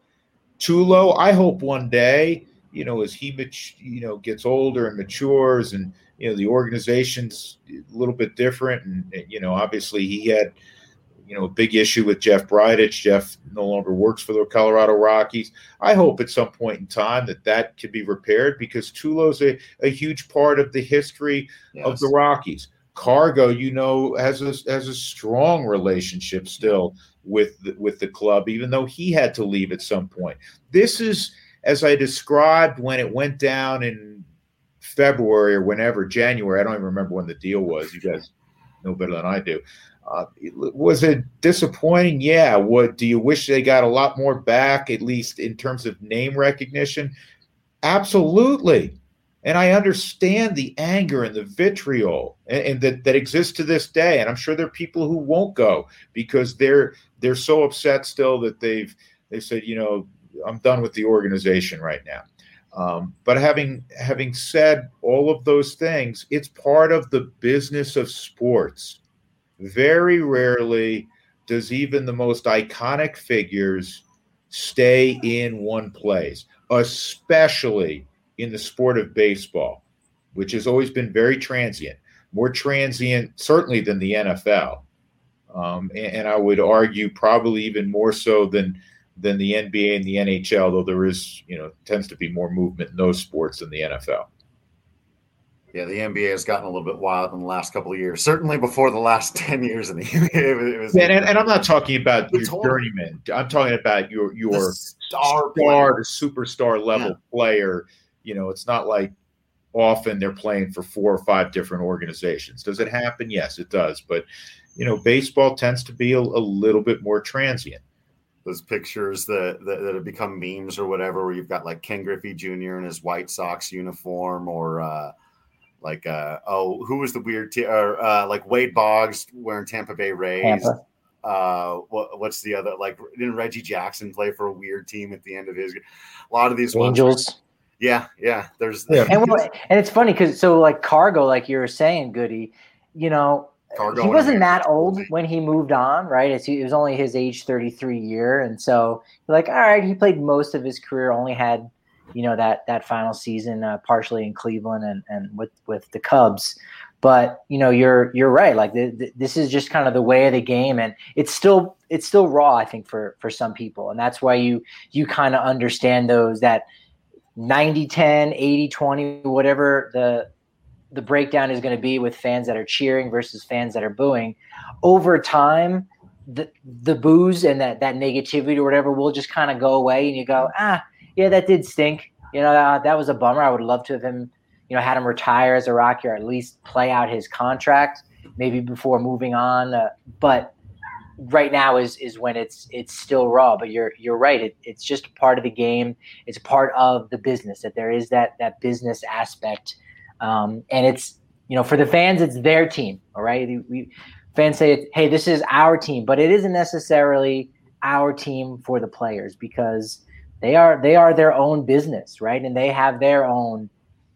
Tulo, I hope one day, you know, as he, you know, gets older and matures, and, you know, the organization's a little bit different. And, you know, obviously he had, you know, a big issue with Jeff Bridich. Jeff no longer works for the Colorado Rockies. I hope at some point in time that that could be repaired, because Tulo's a, a huge part of the history yes. of the Rockies. Cargo, you know, has a, has a strong relationship still with the, with the club, even though he had to leave at some point. This is, as I described when it went down in February or whenever, January, I don't even remember when the deal was. You guys know better than I do. Uh, was it disappointing? Yeah. What do you wish they got a lot more back, at least in terms of name recognition? Absolutely. And I understand the anger and the vitriol and, and that, that exists to this day. And I'm sure there are people who won't go because they're they're so upset still that they've they said, you know, I'm done with the organization right now. Um, but having having said all of those things, it's part of the business of sports. Very rarely does even the most iconic figures stay in one place, especially in the sport of baseball, which has always been very transient, more transient certainly than the N F L. Um, and, and I would argue probably even more so than than the N B A and the N H L, though there is, you know, tends to be more movement in those sports than the N F L. Yeah, the N B A has gotten a little bit wild in the last couple of years. Certainly before the last ten years in the N B A. It was, yeah, and, and I'm not talking about your journeyman. I'm talking about your your star, star to superstar level yeah. player. You know, it's not like often they're playing for four or five different organizations. Does it happen? Yes, it does. But, you know, baseball tends to be a, a little bit more transient. those pictures that, that that have become memes or whatever, where you've got like Ken Griffey Junior in his White Sox uniform, or uh, like uh, oh, who was the weird t- or uh, like Wade Boggs wearing Tampa Bay Rays. Tampa. Uh, what, what's the other, like, didn't Reggie Jackson play for a weird team at the end of his? A lot of these Angels. Ones, yeah, yeah. There's yeah. and well, and it's funny because so like Cargo, like you were saying, Goody, you know. Cargo he wasn't that old when he moved on, right? It's, it was only his age thirty-three year. And so you're like, all right, he played most of his career, only had, you know, that that final season uh, partially in Cleveland and, and with, with the Cubs. But, you know, you're you're right. Like the, the, this is just kind of the way of the game. And it's still it's still raw, I think, for, for some people. And that's why you you kind of understand those that ninety ten, eighty twenty, whatever the – the breakdown is going to be with fans that are cheering versus fans that are booing. Over time, the the boos and that that negativity or whatever will just kind of go away, and you go, ah, yeah, that did stink. You know, that, that was a bummer. I would love to have him, you know, had him retire as a Rocky or at least play out his contract maybe before moving on. Uh, but right now is is when it's it's still raw. But you're you're right. It, it's just part of the game. It's part of the business that there is that that business aspect. Um, and it's, you know, for the fans, it's their team. All right. We, fans say, hey, this is our team, but it isn't necessarily our team for the players because they are, they are their own business. Right. And they have their own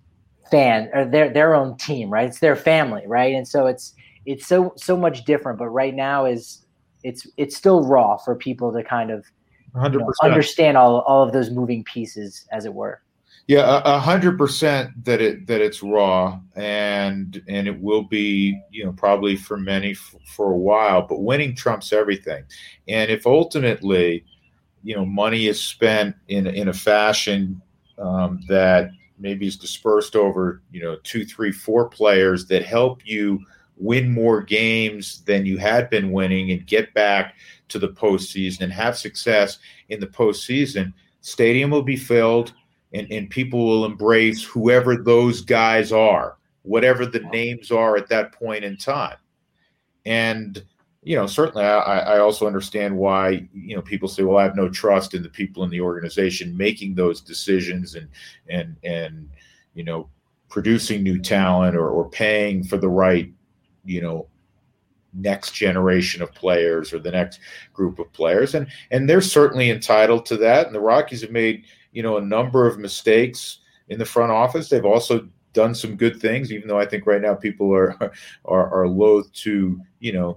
fan or their, their own team, right? It's their family. Right. And so it's, it's so, so much different, but right now is it's, it's still raw for people to kind of you know, understand all, all of those moving pieces, as it were. Yeah, a hundred percent that it that it's raw, and and it will be, you know, probably for many f- for a while. But winning trumps everything, and if ultimately, you know, money is spent in in a fashion um, that maybe is dispersed over, you know, two, three, four players that help you win more games than you had been winning and get back to the postseason and have success in the postseason, stadium will be filled. And, and people will embrace whoever those guys are, whatever the names are at that point in time. And, you know, certainly I, I also understand why, you know, people say, well, I have no trust in the people in the organization making those decisions and, and, and, you know, producing new talent or, or paying for the right, you know, next generation of players or the next group of players. And, and they're certainly entitled to that. And the Rockies have made, you know, a number of mistakes in the front office. They've also done some good things, even though I think right now people are are, are loath to, you know,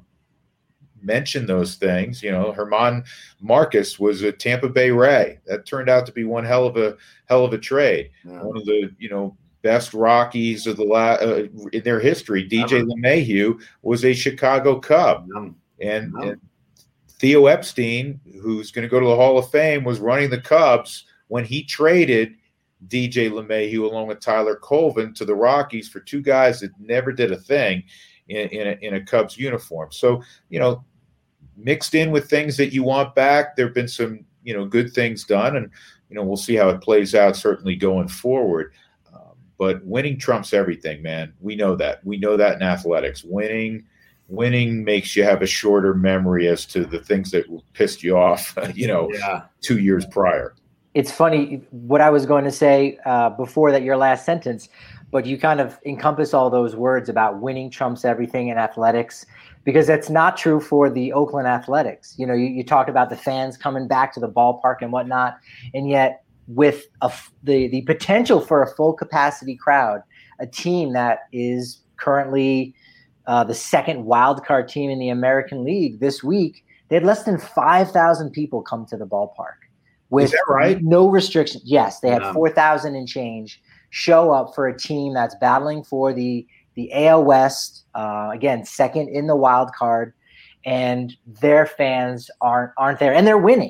mention those things. You know, German Marcus was a Tampa Bay Ray. That turned out to be one hell of a hell of a trade. Yeah. One of the, you know, best Rockies of the la- uh, in their history. D J LeMahieu was a Chicago Cub, yeah. and, yeah. and Theo Epstein, who's going to go to the Hall of Fame, was running the Cubs when he traded D J LeMahieu along with Tyler Colvin to the Rockies for two guys that never did a thing in, in, a, in a Cubs uniform. So, you know, mixed in with things that you want back, there have been some, you know, good things done. And, you know, we'll see how it plays out certainly going forward. Um, but winning trumps everything, man. We know that. We know that in athletics. Winning Winning makes you have a shorter memory as to the things that pissed you off, you know, yeah. two years prior. It's funny what I was going to say uh, before that, your last sentence, but you kind of encompass all those words about winning trumps everything in athletics, because that's not true for the Oakland Athletics. You know, you, you talked about the fans coming back to the ballpark and whatnot, and yet with a, the, the potential for a full capacity crowd, a team that is currently uh, the second wildcard team in the American League this week, they had less than five thousand people come to the ballpark. With Is that right? No restrictions. Yes, they had Yeah. four thousand and change show up for a team that's battling for the the A L West, uh, again, second in the wild card, and their fans aren't aren't there, and they're winning.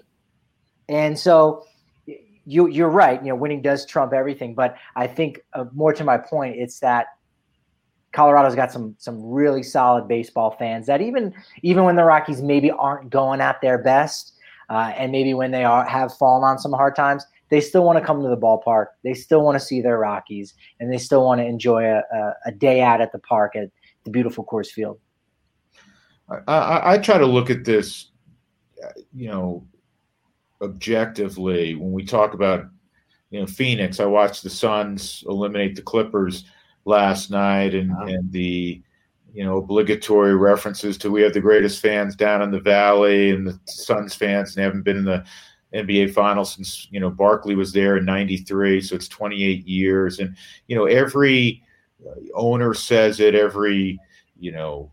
And so you you're right. You know, winning does trump everything. But I think uh, more to my point, it's that Colorado's got some some really solid baseball fans that even even when the Rockies maybe aren't going at their best. Uh, and maybe when they are have fallen on some hard times, they still want to come to the ballpark. They still want to see their Rockies, and they still want to enjoy a, a, a day out at the park at the beautiful Coors Field. I, I, I try to look at this, you know, objectively, when we talk about, you know, Phoenix, I watched the Suns eliminate the Clippers last night, and, wow. and the, you know, obligatory references to we have the greatest fans down in the Valley, and the Suns fans, and they haven't been in the N B A Finals since, you know, Barkley was there in ninety-three, so it's twenty-eight years. And, you know, every owner says it, every, you know,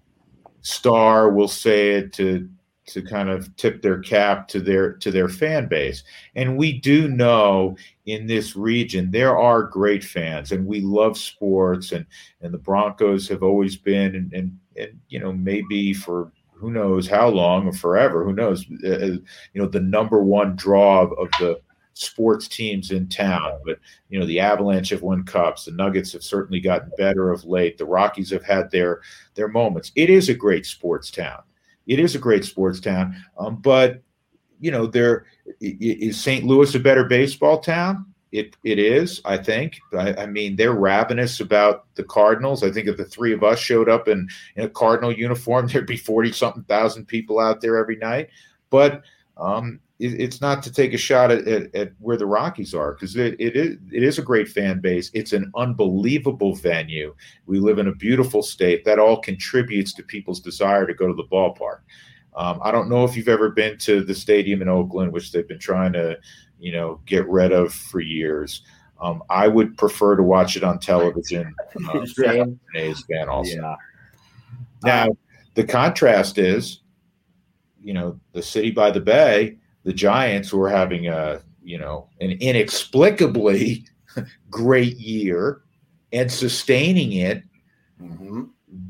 star will say it to to kind of tip their cap to their to their fan base. And we do know in this region there are great fans, and we love sports, and and the Broncos have always been, and and, and you know, maybe for who knows how long or forever, who knows, uh, you know, the number one draw of, of the sports teams in town. But, you know, the Avalanche have won cups. The Nuggets have certainly gotten better of late. The Rockies have had their their moments. It is a great sports town. It is a great sports town. Um, but, you know, there is Saint Louis a better baseball town? It it is, I think. I, I mean, they're ravenous about the Cardinals. I think if the three of us showed up in, in a Cardinal uniform, there'd be forty-something thousand people out there every night. But um, it, it's not to take a shot at, at, at where the Rockies are, because it, it, is, it is a great fan base. It's an unbelievable venue. We live in a beautiful state. That all contributes to people's desire to go to the ballpark. Um, I don't know if you've ever been to the stadium in Oakland, which they've been trying to, you know, get rid of for years. Um, I would prefer to watch it on television. Um, Same. A's fan also. Yeah. Now, the contrast is, you know, the city by the bay, the Giants, who are having a, you know, an inexplicably great year and sustaining it, Mm-hmm.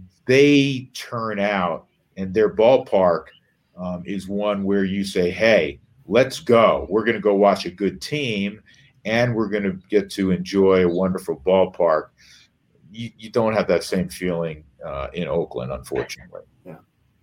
they turn out, and their ballpark um, is one where you say, hey, let's go. We're going to go watch a good team, and we're going to get to enjoy a wonderful ballpark. You, you don't have that same feeling uh, in Oakland, unfortunately. Yeah.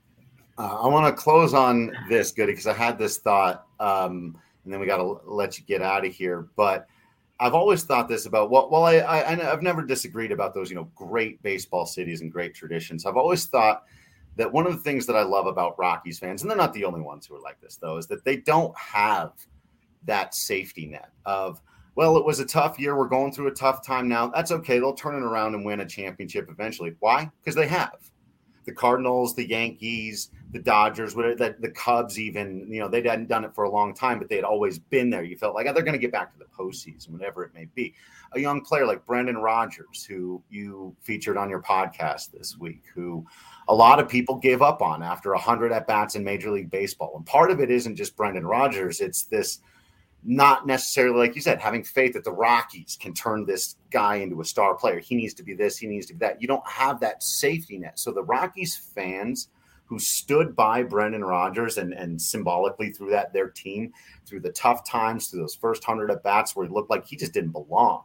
Uh, I want to close on this, Goody, because I had this thought, um, and then we got to let you get out of here. But I've always thought this about, well, well I, I, I've never disagreed about those, you know, great baseball cities and great traditions. I've always thought that one of the things that I love about Rockies fans, and they're not the only ones who are like this, though, is that they don't have that safety net of, well, it was a tough year. We're going through a tough time now. That's okay. They'll turn it around and win a championship eventually. Why? Because they have. The Cardinals, the Yankees, the Dodgers, whatever, the, the Cubs even, you know, they hadn't done it for a long time, but they had always been there. You felt like, oh, they're going to get back to the postseason, whatever it may be. A young player like Brendan Rodgers, who you featured on your podcast this week, who a lot of people gave up on after one hundred at-bats in Major League Baseball. And part of it isn't just Brendan Rodgers. It's this not necessarily, like you said, having faith that the Rockies can turn this guy into a star player. He needs to be this, he needs to be that. You don't have that safety net. So the Rockies fans who stood by Brendan Rodgers and, and symbolically through that, their team, through the tough times, through those first hundred at-bats where it looked like he just didn't belong.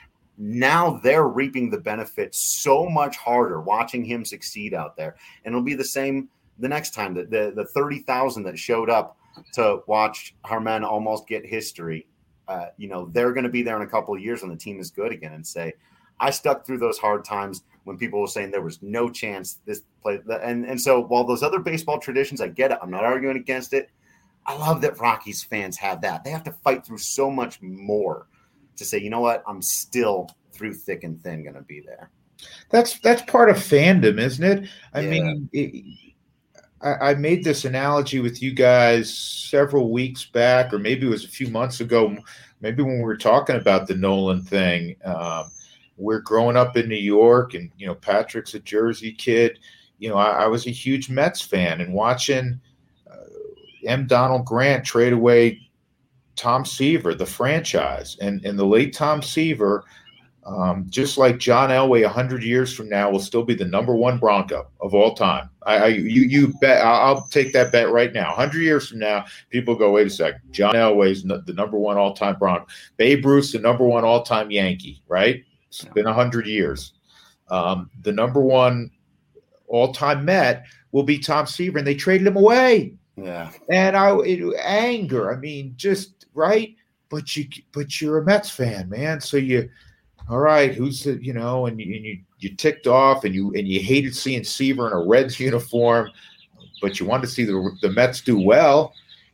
Now they're reaping the benefits so much harder watching him succeed out there. And it'll be the same the next time. The, the, the thirty thousand that showed up to watch Germán almost get history, uh, you know, they're going to be there in a couple of years when the team is good again and say, I stuck through those hard times when people were saying there was no chance this play. And, and so while those other baseball traditions, I get it. I'm not arguing against it. I love that Rockies fans have that. They have to fight through so much more to say, you know what, I'm still through thick and thin going to be there. That's that's part of fandom, isn't it? I Yeah. mean, it, I, I made this analogy with you guys several weeks back, or maybe it was a few months ago, maybe when we were talking about the Nolan thing. Um, we're growing up in New York, and, you know, Patrick's a Jersey kid. You know, I, I was a huge Mets fan, and watching uh, M. Donald Grant trade away Tom Seaver, the franchise, and, and the late Tom Seaver, um, just like John Elway, a hundred years from now will still be the number one Bronco of all time. I, I you you bet. I'll take that bet right now. A hundred years from now, people go, wait a second. John Elway's the number one all time Bronco. Babe Ruth's the number one all time Yankee. Right? It's been a hundred years. Um, the number one all time Met will be Tom Seaver, and they traded him away. Yeah. And I it, anger. I mean, just right. But you but you're a Mets fan, man. So you. All right, who's the, you know, and you, and you you ticked off, and you and you hated seeing Seaver in a Reds uniform, but you wanted to see the the Mets do well,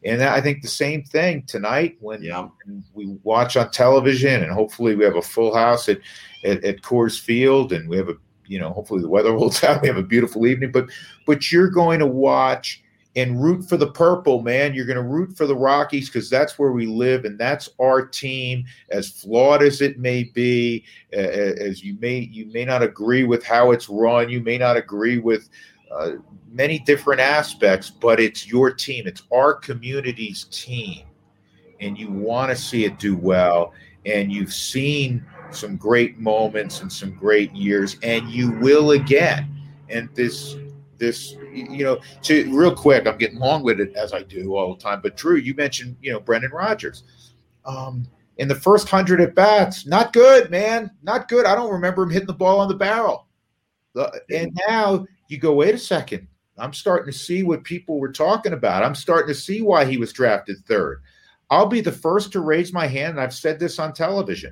And I think the same thing tonight when yeah. we watch on television, and hopefully we have a full house at, at, at Coors Field, and we have a, you know, hopefully the weather holds out. We have a beautiful evening, but, but you're going to watch and root for the purple, man. You're going to root for the Rockies because that's where we live, and that's our team. As flawed as it may be, uh, as you may you may not agree with how it's run, you may not agree with uh, many different aspects, but it's your team. It's our community's team, and you want to see it do well. And you've seen some great moments and some great years, and you will again. And this. This, you know, to real quick, I'm getting long-winded as I do all the time. But Drew, you mentioned, you know, Brendan Rodgers. Um, in the first hundred at bats, not good, man, not good. I don't remember him hitting the ball on the barrel. Uh, and now you go, wait a second. I'm starting to see what people were talking about. I'm starting to see why he was drafted third. I'll be the first to raise my hand, and I've said this on television.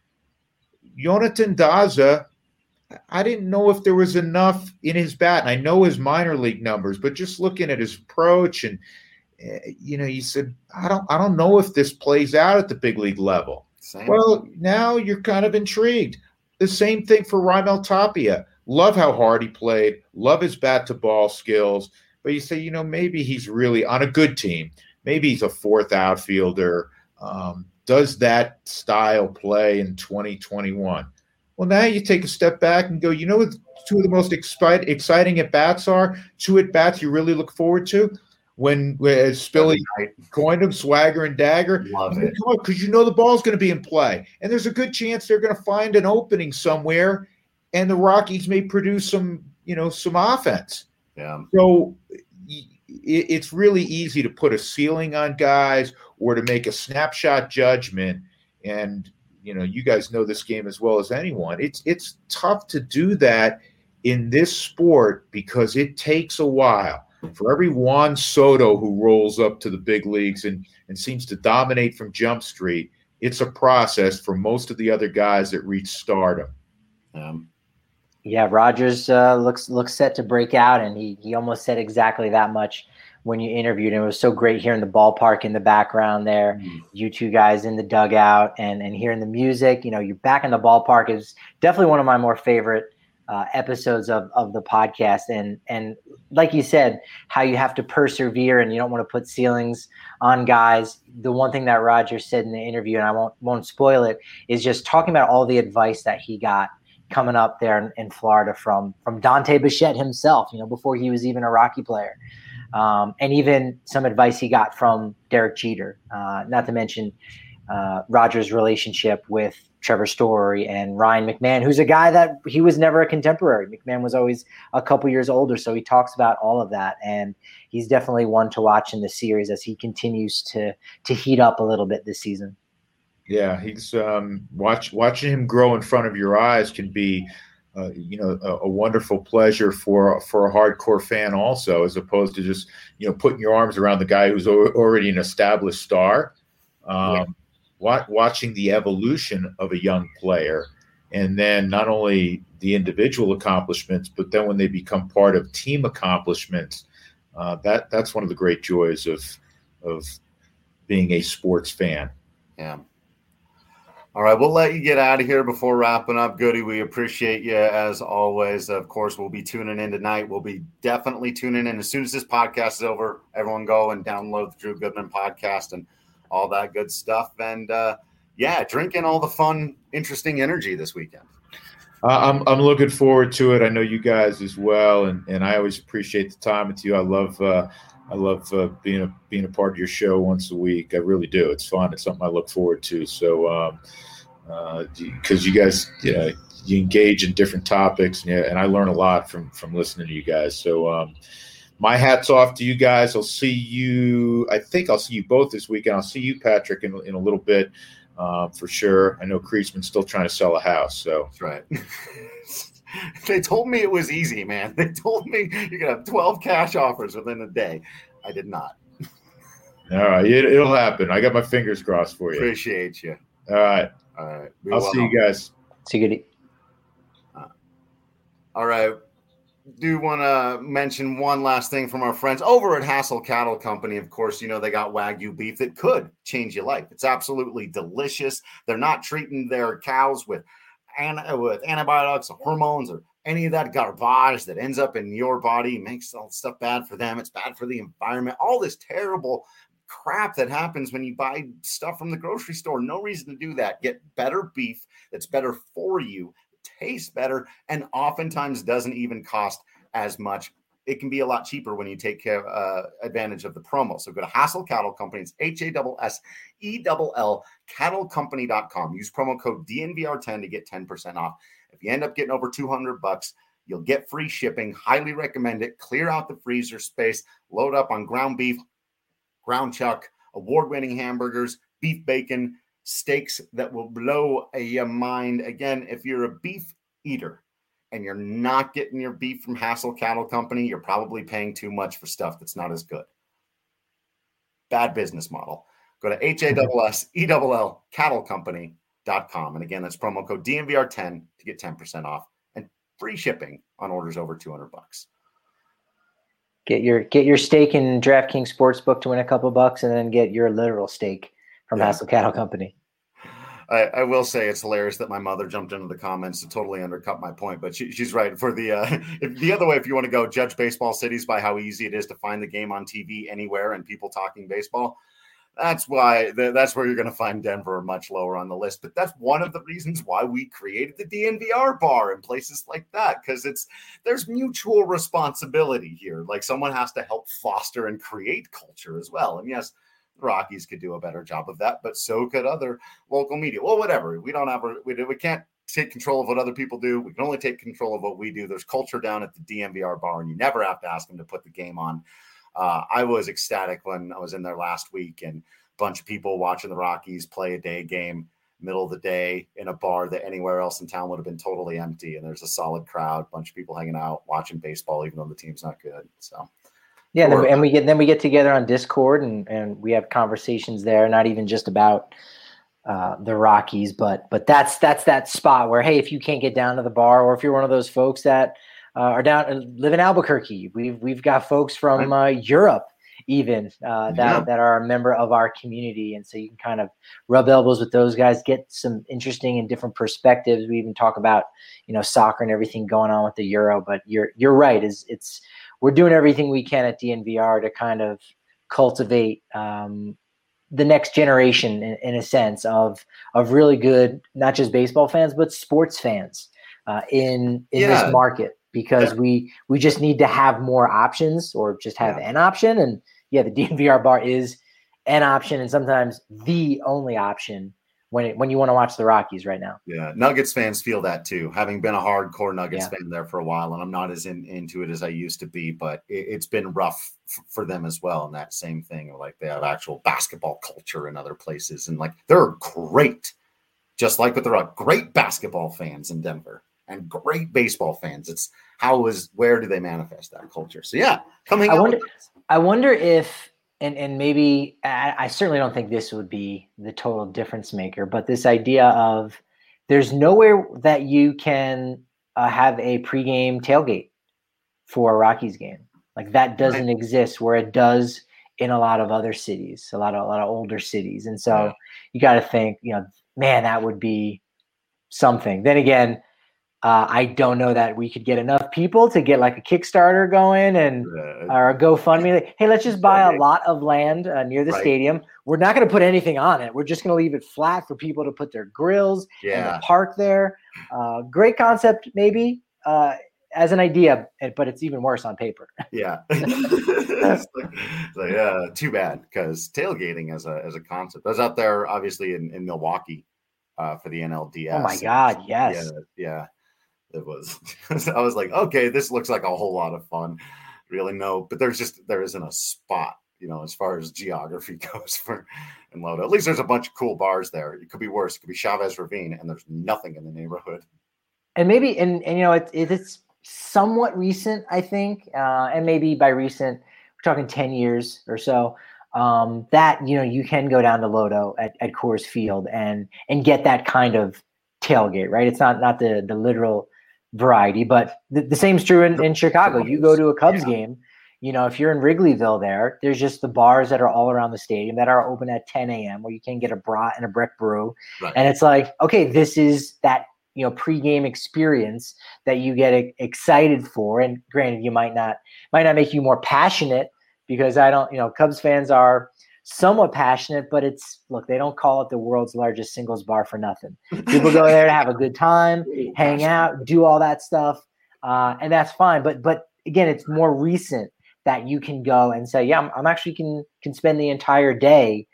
Jonathan Daza. I didn't know if there was enough in his bat, and I know his minor league numbers, but just looking at his approach, and uh, you know, you said, I don't, I don't know if this plays out at the big league level. Same. Well, now you're kind of intrigued. The same thing for Raimel Tapia. Love how hard he played. Love his bat to ball skills. But you say, you know, maybe he's really on a good team. Maybe he's a fourth outfielder. Um, does that style play in twenty twenty-one? Well, now you take a step back and go, you know what two of the most excite, exciting at-bats are? Two at-bats you really look forward to? When, when Spilly coined them, Swagger and Dagger. Love it. Because you know the ball's going to be in play. And there's a good chance they're going to find an opening somewhere, and the Rockies may produce some, you know, some offense. Yeah. So it, it's really easy to put a ceiling on guys or to make a snapshot judgment. And you know, you guys know this game as well as anyone. It's it's tough to do that in this sport because it takes a while. For every Juan Soto who rolls up to the big leagues and, and seems to dominate from Jump Street, it's a process for most of the other guys that reach stardom. Um, yeah, Rodgers uh, looks looks set to break out, and he he almost said exactly that much when you interviewed him. It was so great hearing the ballpark in the background there, mm-hmm. you two guys in the dugout, and and hearing the music. You know, you're back in the ballpark is definitely one of my more favorite uh, episodes of of the podcast. And and like you said, how you have to persevere and you don't want to put ceilings on guys. The one thing that Rodgers said in the interview, and I won't won't spoil it, is just talking about all the advice that he got coming up there in, in Florida from from Dante Bichette himself. You know, before he was even a Rocky player. Um, and even some advice he got from Derek Jeter, uh, not to mention uh, Rodgers' relationship with Trevor Story and Ryan McMahon, who's a guy that he was never a contemporary. McMahon was always a couple years older, so he talks about all of that. And he's definitely one to watch in the series as he continues to to heat up a little bit this season. Yeah, he's um, watch, watching him grow in front of your eyes can be Uh, you know, a, a wonderful pleasure for for a hardcore fan also, as opposed to just, you know, putting your arms around the guy who's o- already an established star. Um, yeah. wa- watching the evolution of a young player, and then not only the individual accomplishments, but then when they become part of team accomplishments, uh, that that's one of the great joys of of being a sports fan. Yeah. All right, we'll let you get out of here before wrapping up. Goody, we appreciate you as always. Of course, we'll be tuning in tonight. We'll be definitely tuning in. As soon as this podcast is over, everyone go and download the Drew Goodman podcast and all that good stuff. And, uh, yeah, drink in all the fun, interesting energy this weekend. Uh, I'm I'm looking forward to it. I know you guys as well, and, and I always appreciate the time with you. I love uh, I love uh, being a being a part of your show once a week. I really do. It's fun. It's something I look forward to. So, um, uh, because you guys, you know, you engage in different topics, and, yeah, and I learn a lot from from listening to you guys. So, um, my hat's off to you guys. I'll see you. I think I'll see you both this weekend. I'll see you, Patrick, in in a little bit. Uh, for sure. I know Kreisman's still trying to sell a house. So that's right. They told me it was easy, man. They told me you could have twelve cash offers within a day. I did not. All right. It, it'll happen. I got my fingers crossed for you. Appreciate you. All right. All right. I'll well. see you guys. See you, Goody. Uh, all right. do want to mention one last thing from our friends over at Hassel Cattle Company. Of course, you know, they got Wagyu beef that could change your life. It's absolutely delicious. They're not treating their cows with, with antibiotics or hormones or any of that garbage that ends up in your body, makes all stuff bad for them. It's bad for the environment. All this terrible crap that happens when you buy stuff from the grocery store. No reason to do that. Get better beef that's better for you, tastes better, and oftentimes doesn't even cost as much. It can be a lot cheaper when you take care, uh, advantage of the promo. So go to Hassel Cattle Company. It's H A S S E L L cattle company dot com. Use promo code D N V R ten to get ten percent off. If you end up getting over two hundred bucks, you'll get free shipping. Highly recommend it. Clear out the freezer space. Load up on ground beef, ground chuck, award-winning hamburgers, beef bacon, steaks that will blow your mind. Again, if you're a beef eater and you're not getting your beef from Hassel Cattle Company, you're probably paying too much for stuff that's not as good. Bad business model. Go to H A S S E L L cattle company dot com. And again, that's promo code D N V R ten to get ten percent off and free shipping on orders over two hundred bucks. Get your get your stake in DraftKings Sportsbook to win a couple bucks, and then get your literal stake from yeah. Hassel Cattle Company. I, I will say it's hilarious that my mother jumped into the comments to totally undercut my point, but she, she's right. For the uh, if, the other way, if you want to go judge baseball cities by how easy it is to find the game on T V anywhere and people talking baseball, that's why that's where you're going to find Denver much lower on the list. But that's one of the reasons why we created the D N V R bar and places like that, because it's there's mutual responsibility here. Like someone has to help foster and create culture as well. And yes, the Rockies could do a better job of that, but so could other local media. Well, whatever. We don't have a, we, we can't take control of what other people do. We can only take control of what we do. There's culture down at the D N V R bar, and you never have to ask them to put the game on. Uh, I was ecstatic when I was in there last week and a bunch of people watching the Rockies play a day game, middle of the day in a bar that anywhere else in town would have been totally empty. And there's a solid crowd, bunch of people hanging out, watching baseball, even though the team's not good. So, yeah. Sure. And we get, then we get together on Discord and, and we have conversations there, not even just about uh, the Rockies, but, but that's, that's that spot where, hey, if you can't get down to the bar, or if you're one of those folks that, Uh, are down live in Albuquerque. We've we've got folks from uh, Europe even uh, that yeah. that are a member of our community, and so you can kind of rub elbows with those guys, get some interesting and different perspectives. We even talk about you know soccer and everything going on with the Euro. But you're you're right. Is it's we're doing everything we can at D N V R to kind of cultivate um, the next generation in, in a sense of of really good not just baseball fans but sports fans uh, in in yeah. this market. Because yeah. we we just need to have more options, or just have yeah. an option. And yeah, the D N V R bar is an option, and sometimes the only option when it, when you want to watch the Rockies right now. Yeah, Nuggets fans feel that too. Having been a hardcore Nuggets yeah. fan there for a while, and I'm not as in, into it as I used to be, but it, it's been rough f- for them as well. And that same thing, like they have actual basketball culture in other places, and like they're great, just like with the Rock, great basketball fans in Denver. And great baseball fans. It's how is where do they manifest that culture? So yeah, coming. I wonder. I wonder if, and and maybe I, I certainly don't think this would be the total difference maker, but this idea of there's nowhere that you can uh, have a pregame tailgate for a Rockies game. Like that doesn't right. exist where it does in a lot of other cities, a lot of a lot of older cities, and so yeah. you got to think, you know, man, that would be something. Then again. Uh, I don't know that we could get enough people to get like a Kickstarter going and uh, or a GoFundMe. Like, hey, let's just buy a lot of land uh, near the right. stadium. We're not going to put anything on it. We're just going to leave it flat for people to put their grills yeah. and park there. Uh, great concept, maybe uh, as an idea, but it's even worse on paper. Yeah, it's like, it's like, yeah. Too bad, because tailgating as a as a concept. I was out there, obviously in, in Milwaukee uh, for the N L D S. Oh my God, yes, yeah. yeah. It was, I was like, okay, this looks like a whole lot of fun. Really, no, but there's just, there isn't a spot, you know, as far as geography goes for in Lodo. At least there's a bunch of cool bars there. It could be worse. It could be Chavez Ravine, and there's nothing in the neighborhood. And maybe, and, and you know, it, it's somewhat recent, I think. Uh, and maybe by recent, we're talking ten years or so. Um, that, you know, you can go down to Lodo at, at Coors Field and, and get that kind of tailgate, right? It's not, not the, the literal, variety, but the, the same's true in, in Chicago. You go to a Cubs yeah. game, you know, if you're in Wrigleyville there, there's just the bars that are all around the stadium that are open at ten a.m. where you can get a brat and a brick brew. Right. And it's like, okay, this is that, you know, pregame experience that you get e- excited for. And granted, you might not, might not make you more passionate because I don't, you know, Cubs fans are somewhat passionate, but it's, look, they don't call it the world's largest singles bar for nothing. People go there to have a good time, hang out, do all that stuff. Uh, and that's fine. But, but again, it's more recent that you can go and say, yeah, I'm, I'm actually can, can spend the entire day.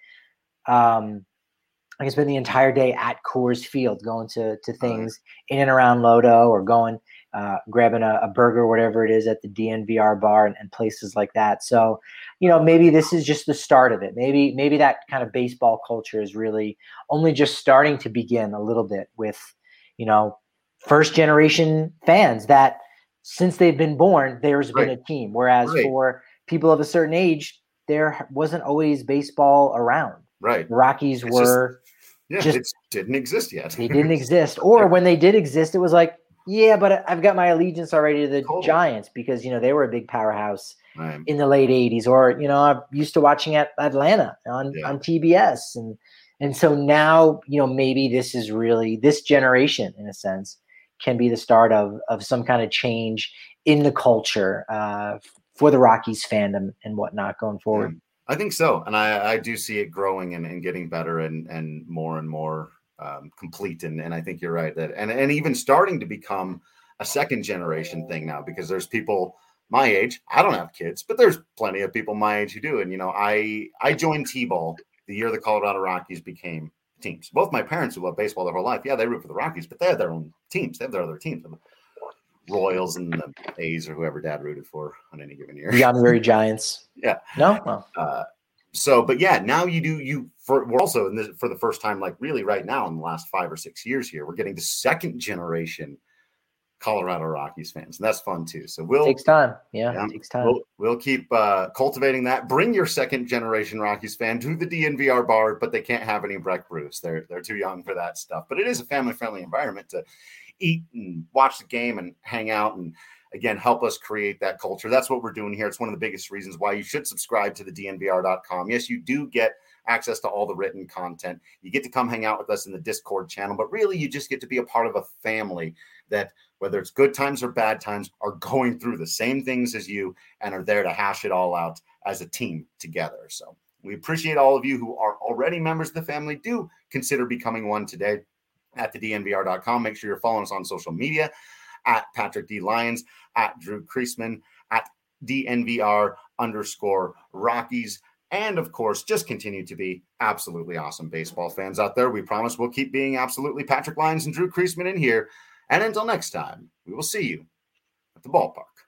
Um, I can spend the entire day at Coors Field, going to, to things right. in and around Lodo, or going, uh, grabbing a, a burger, whatever it is at the D N V R bar and, and places like that. So, you know, maybe this is just the start of it. Maybe, maybe that kind of baseball culture is really only just starting to begin a little bit with, you know, first generation fans that since they've been born, there's right. been a team. Whereas right. for people of a certain age, there wasn't always baseball around. Right. The Rockies it's were just, yeah, just it didn't exist yet. They didn't exist. Or when they did exist, it was like, yeah, but I've got my allegiance already to the totally. Giants because, you know, they were a big powerhouse right. in the late eighties. Or, you know, I'm used to watching at Atlanta on, yeah. on T B S. And and so now, you know, maybe this is really, this generation, in a sense, can be the start of of some kind of change in the culture uh, for the Rockies fandom and whatnot going forward. Yeah, I think so. And I, I do see it growing and, and getting better and, and more and more um, complete. And, and I think you're right that, and, and even starting to become a second generation thing now, because there's people my age, I don't have kids, but there's plenty of people my age who do. And, you know, I, I joined T-ball the year the Colorado Rockies became teams. Both my parents who love baseball their whole life, yeah, they root for the Rockies, but they have their own teams. They have their other teams, the Royals and the A's or whoever Dad rooted for on any given year. The honorary Giants. Yeah. No. Oh. Uh, so, but yeah, now you do you for we're also in this for the first time, like really right now in the last five or six years here, we're getting the second generation Colorado Rockies fans, and that's fun too. So we'll takes time. Yeah, yeah it takes time. We'll, we'll keep uh, cultivating that. Bring your second generation Rockies fan to the D N V R bar, but they can't have any Breck brews. They're they're too young for that stuff. But it is a family friendly environment to eat and watch the game and hang out and again help us create that culture. That's what we're doing here. It's one of the biggest reasons why you should subscribe to the D N V R dot com. Yes, you do get access to all the written content. You get to come hang out with us in the Discord channel, but really you just get to be a part of a family that, whether it's good times or bad times, are going through the same things as you and are there to hash it all out as a team together. So we appreciate all of you who are already members of the family. Do consider becoming one today at the D N V R dot com. Make sure you're following us on social media at Patrick D. Lyons, at Drew Creasman, at D N V R underscore Rockies. And, of course, just continue to be absolutely awesome baseball fans out there. We promise we'll keep being absolutely Patrick Lyons and Drew Creasman in here. And until next time, we will see you at the ballpark.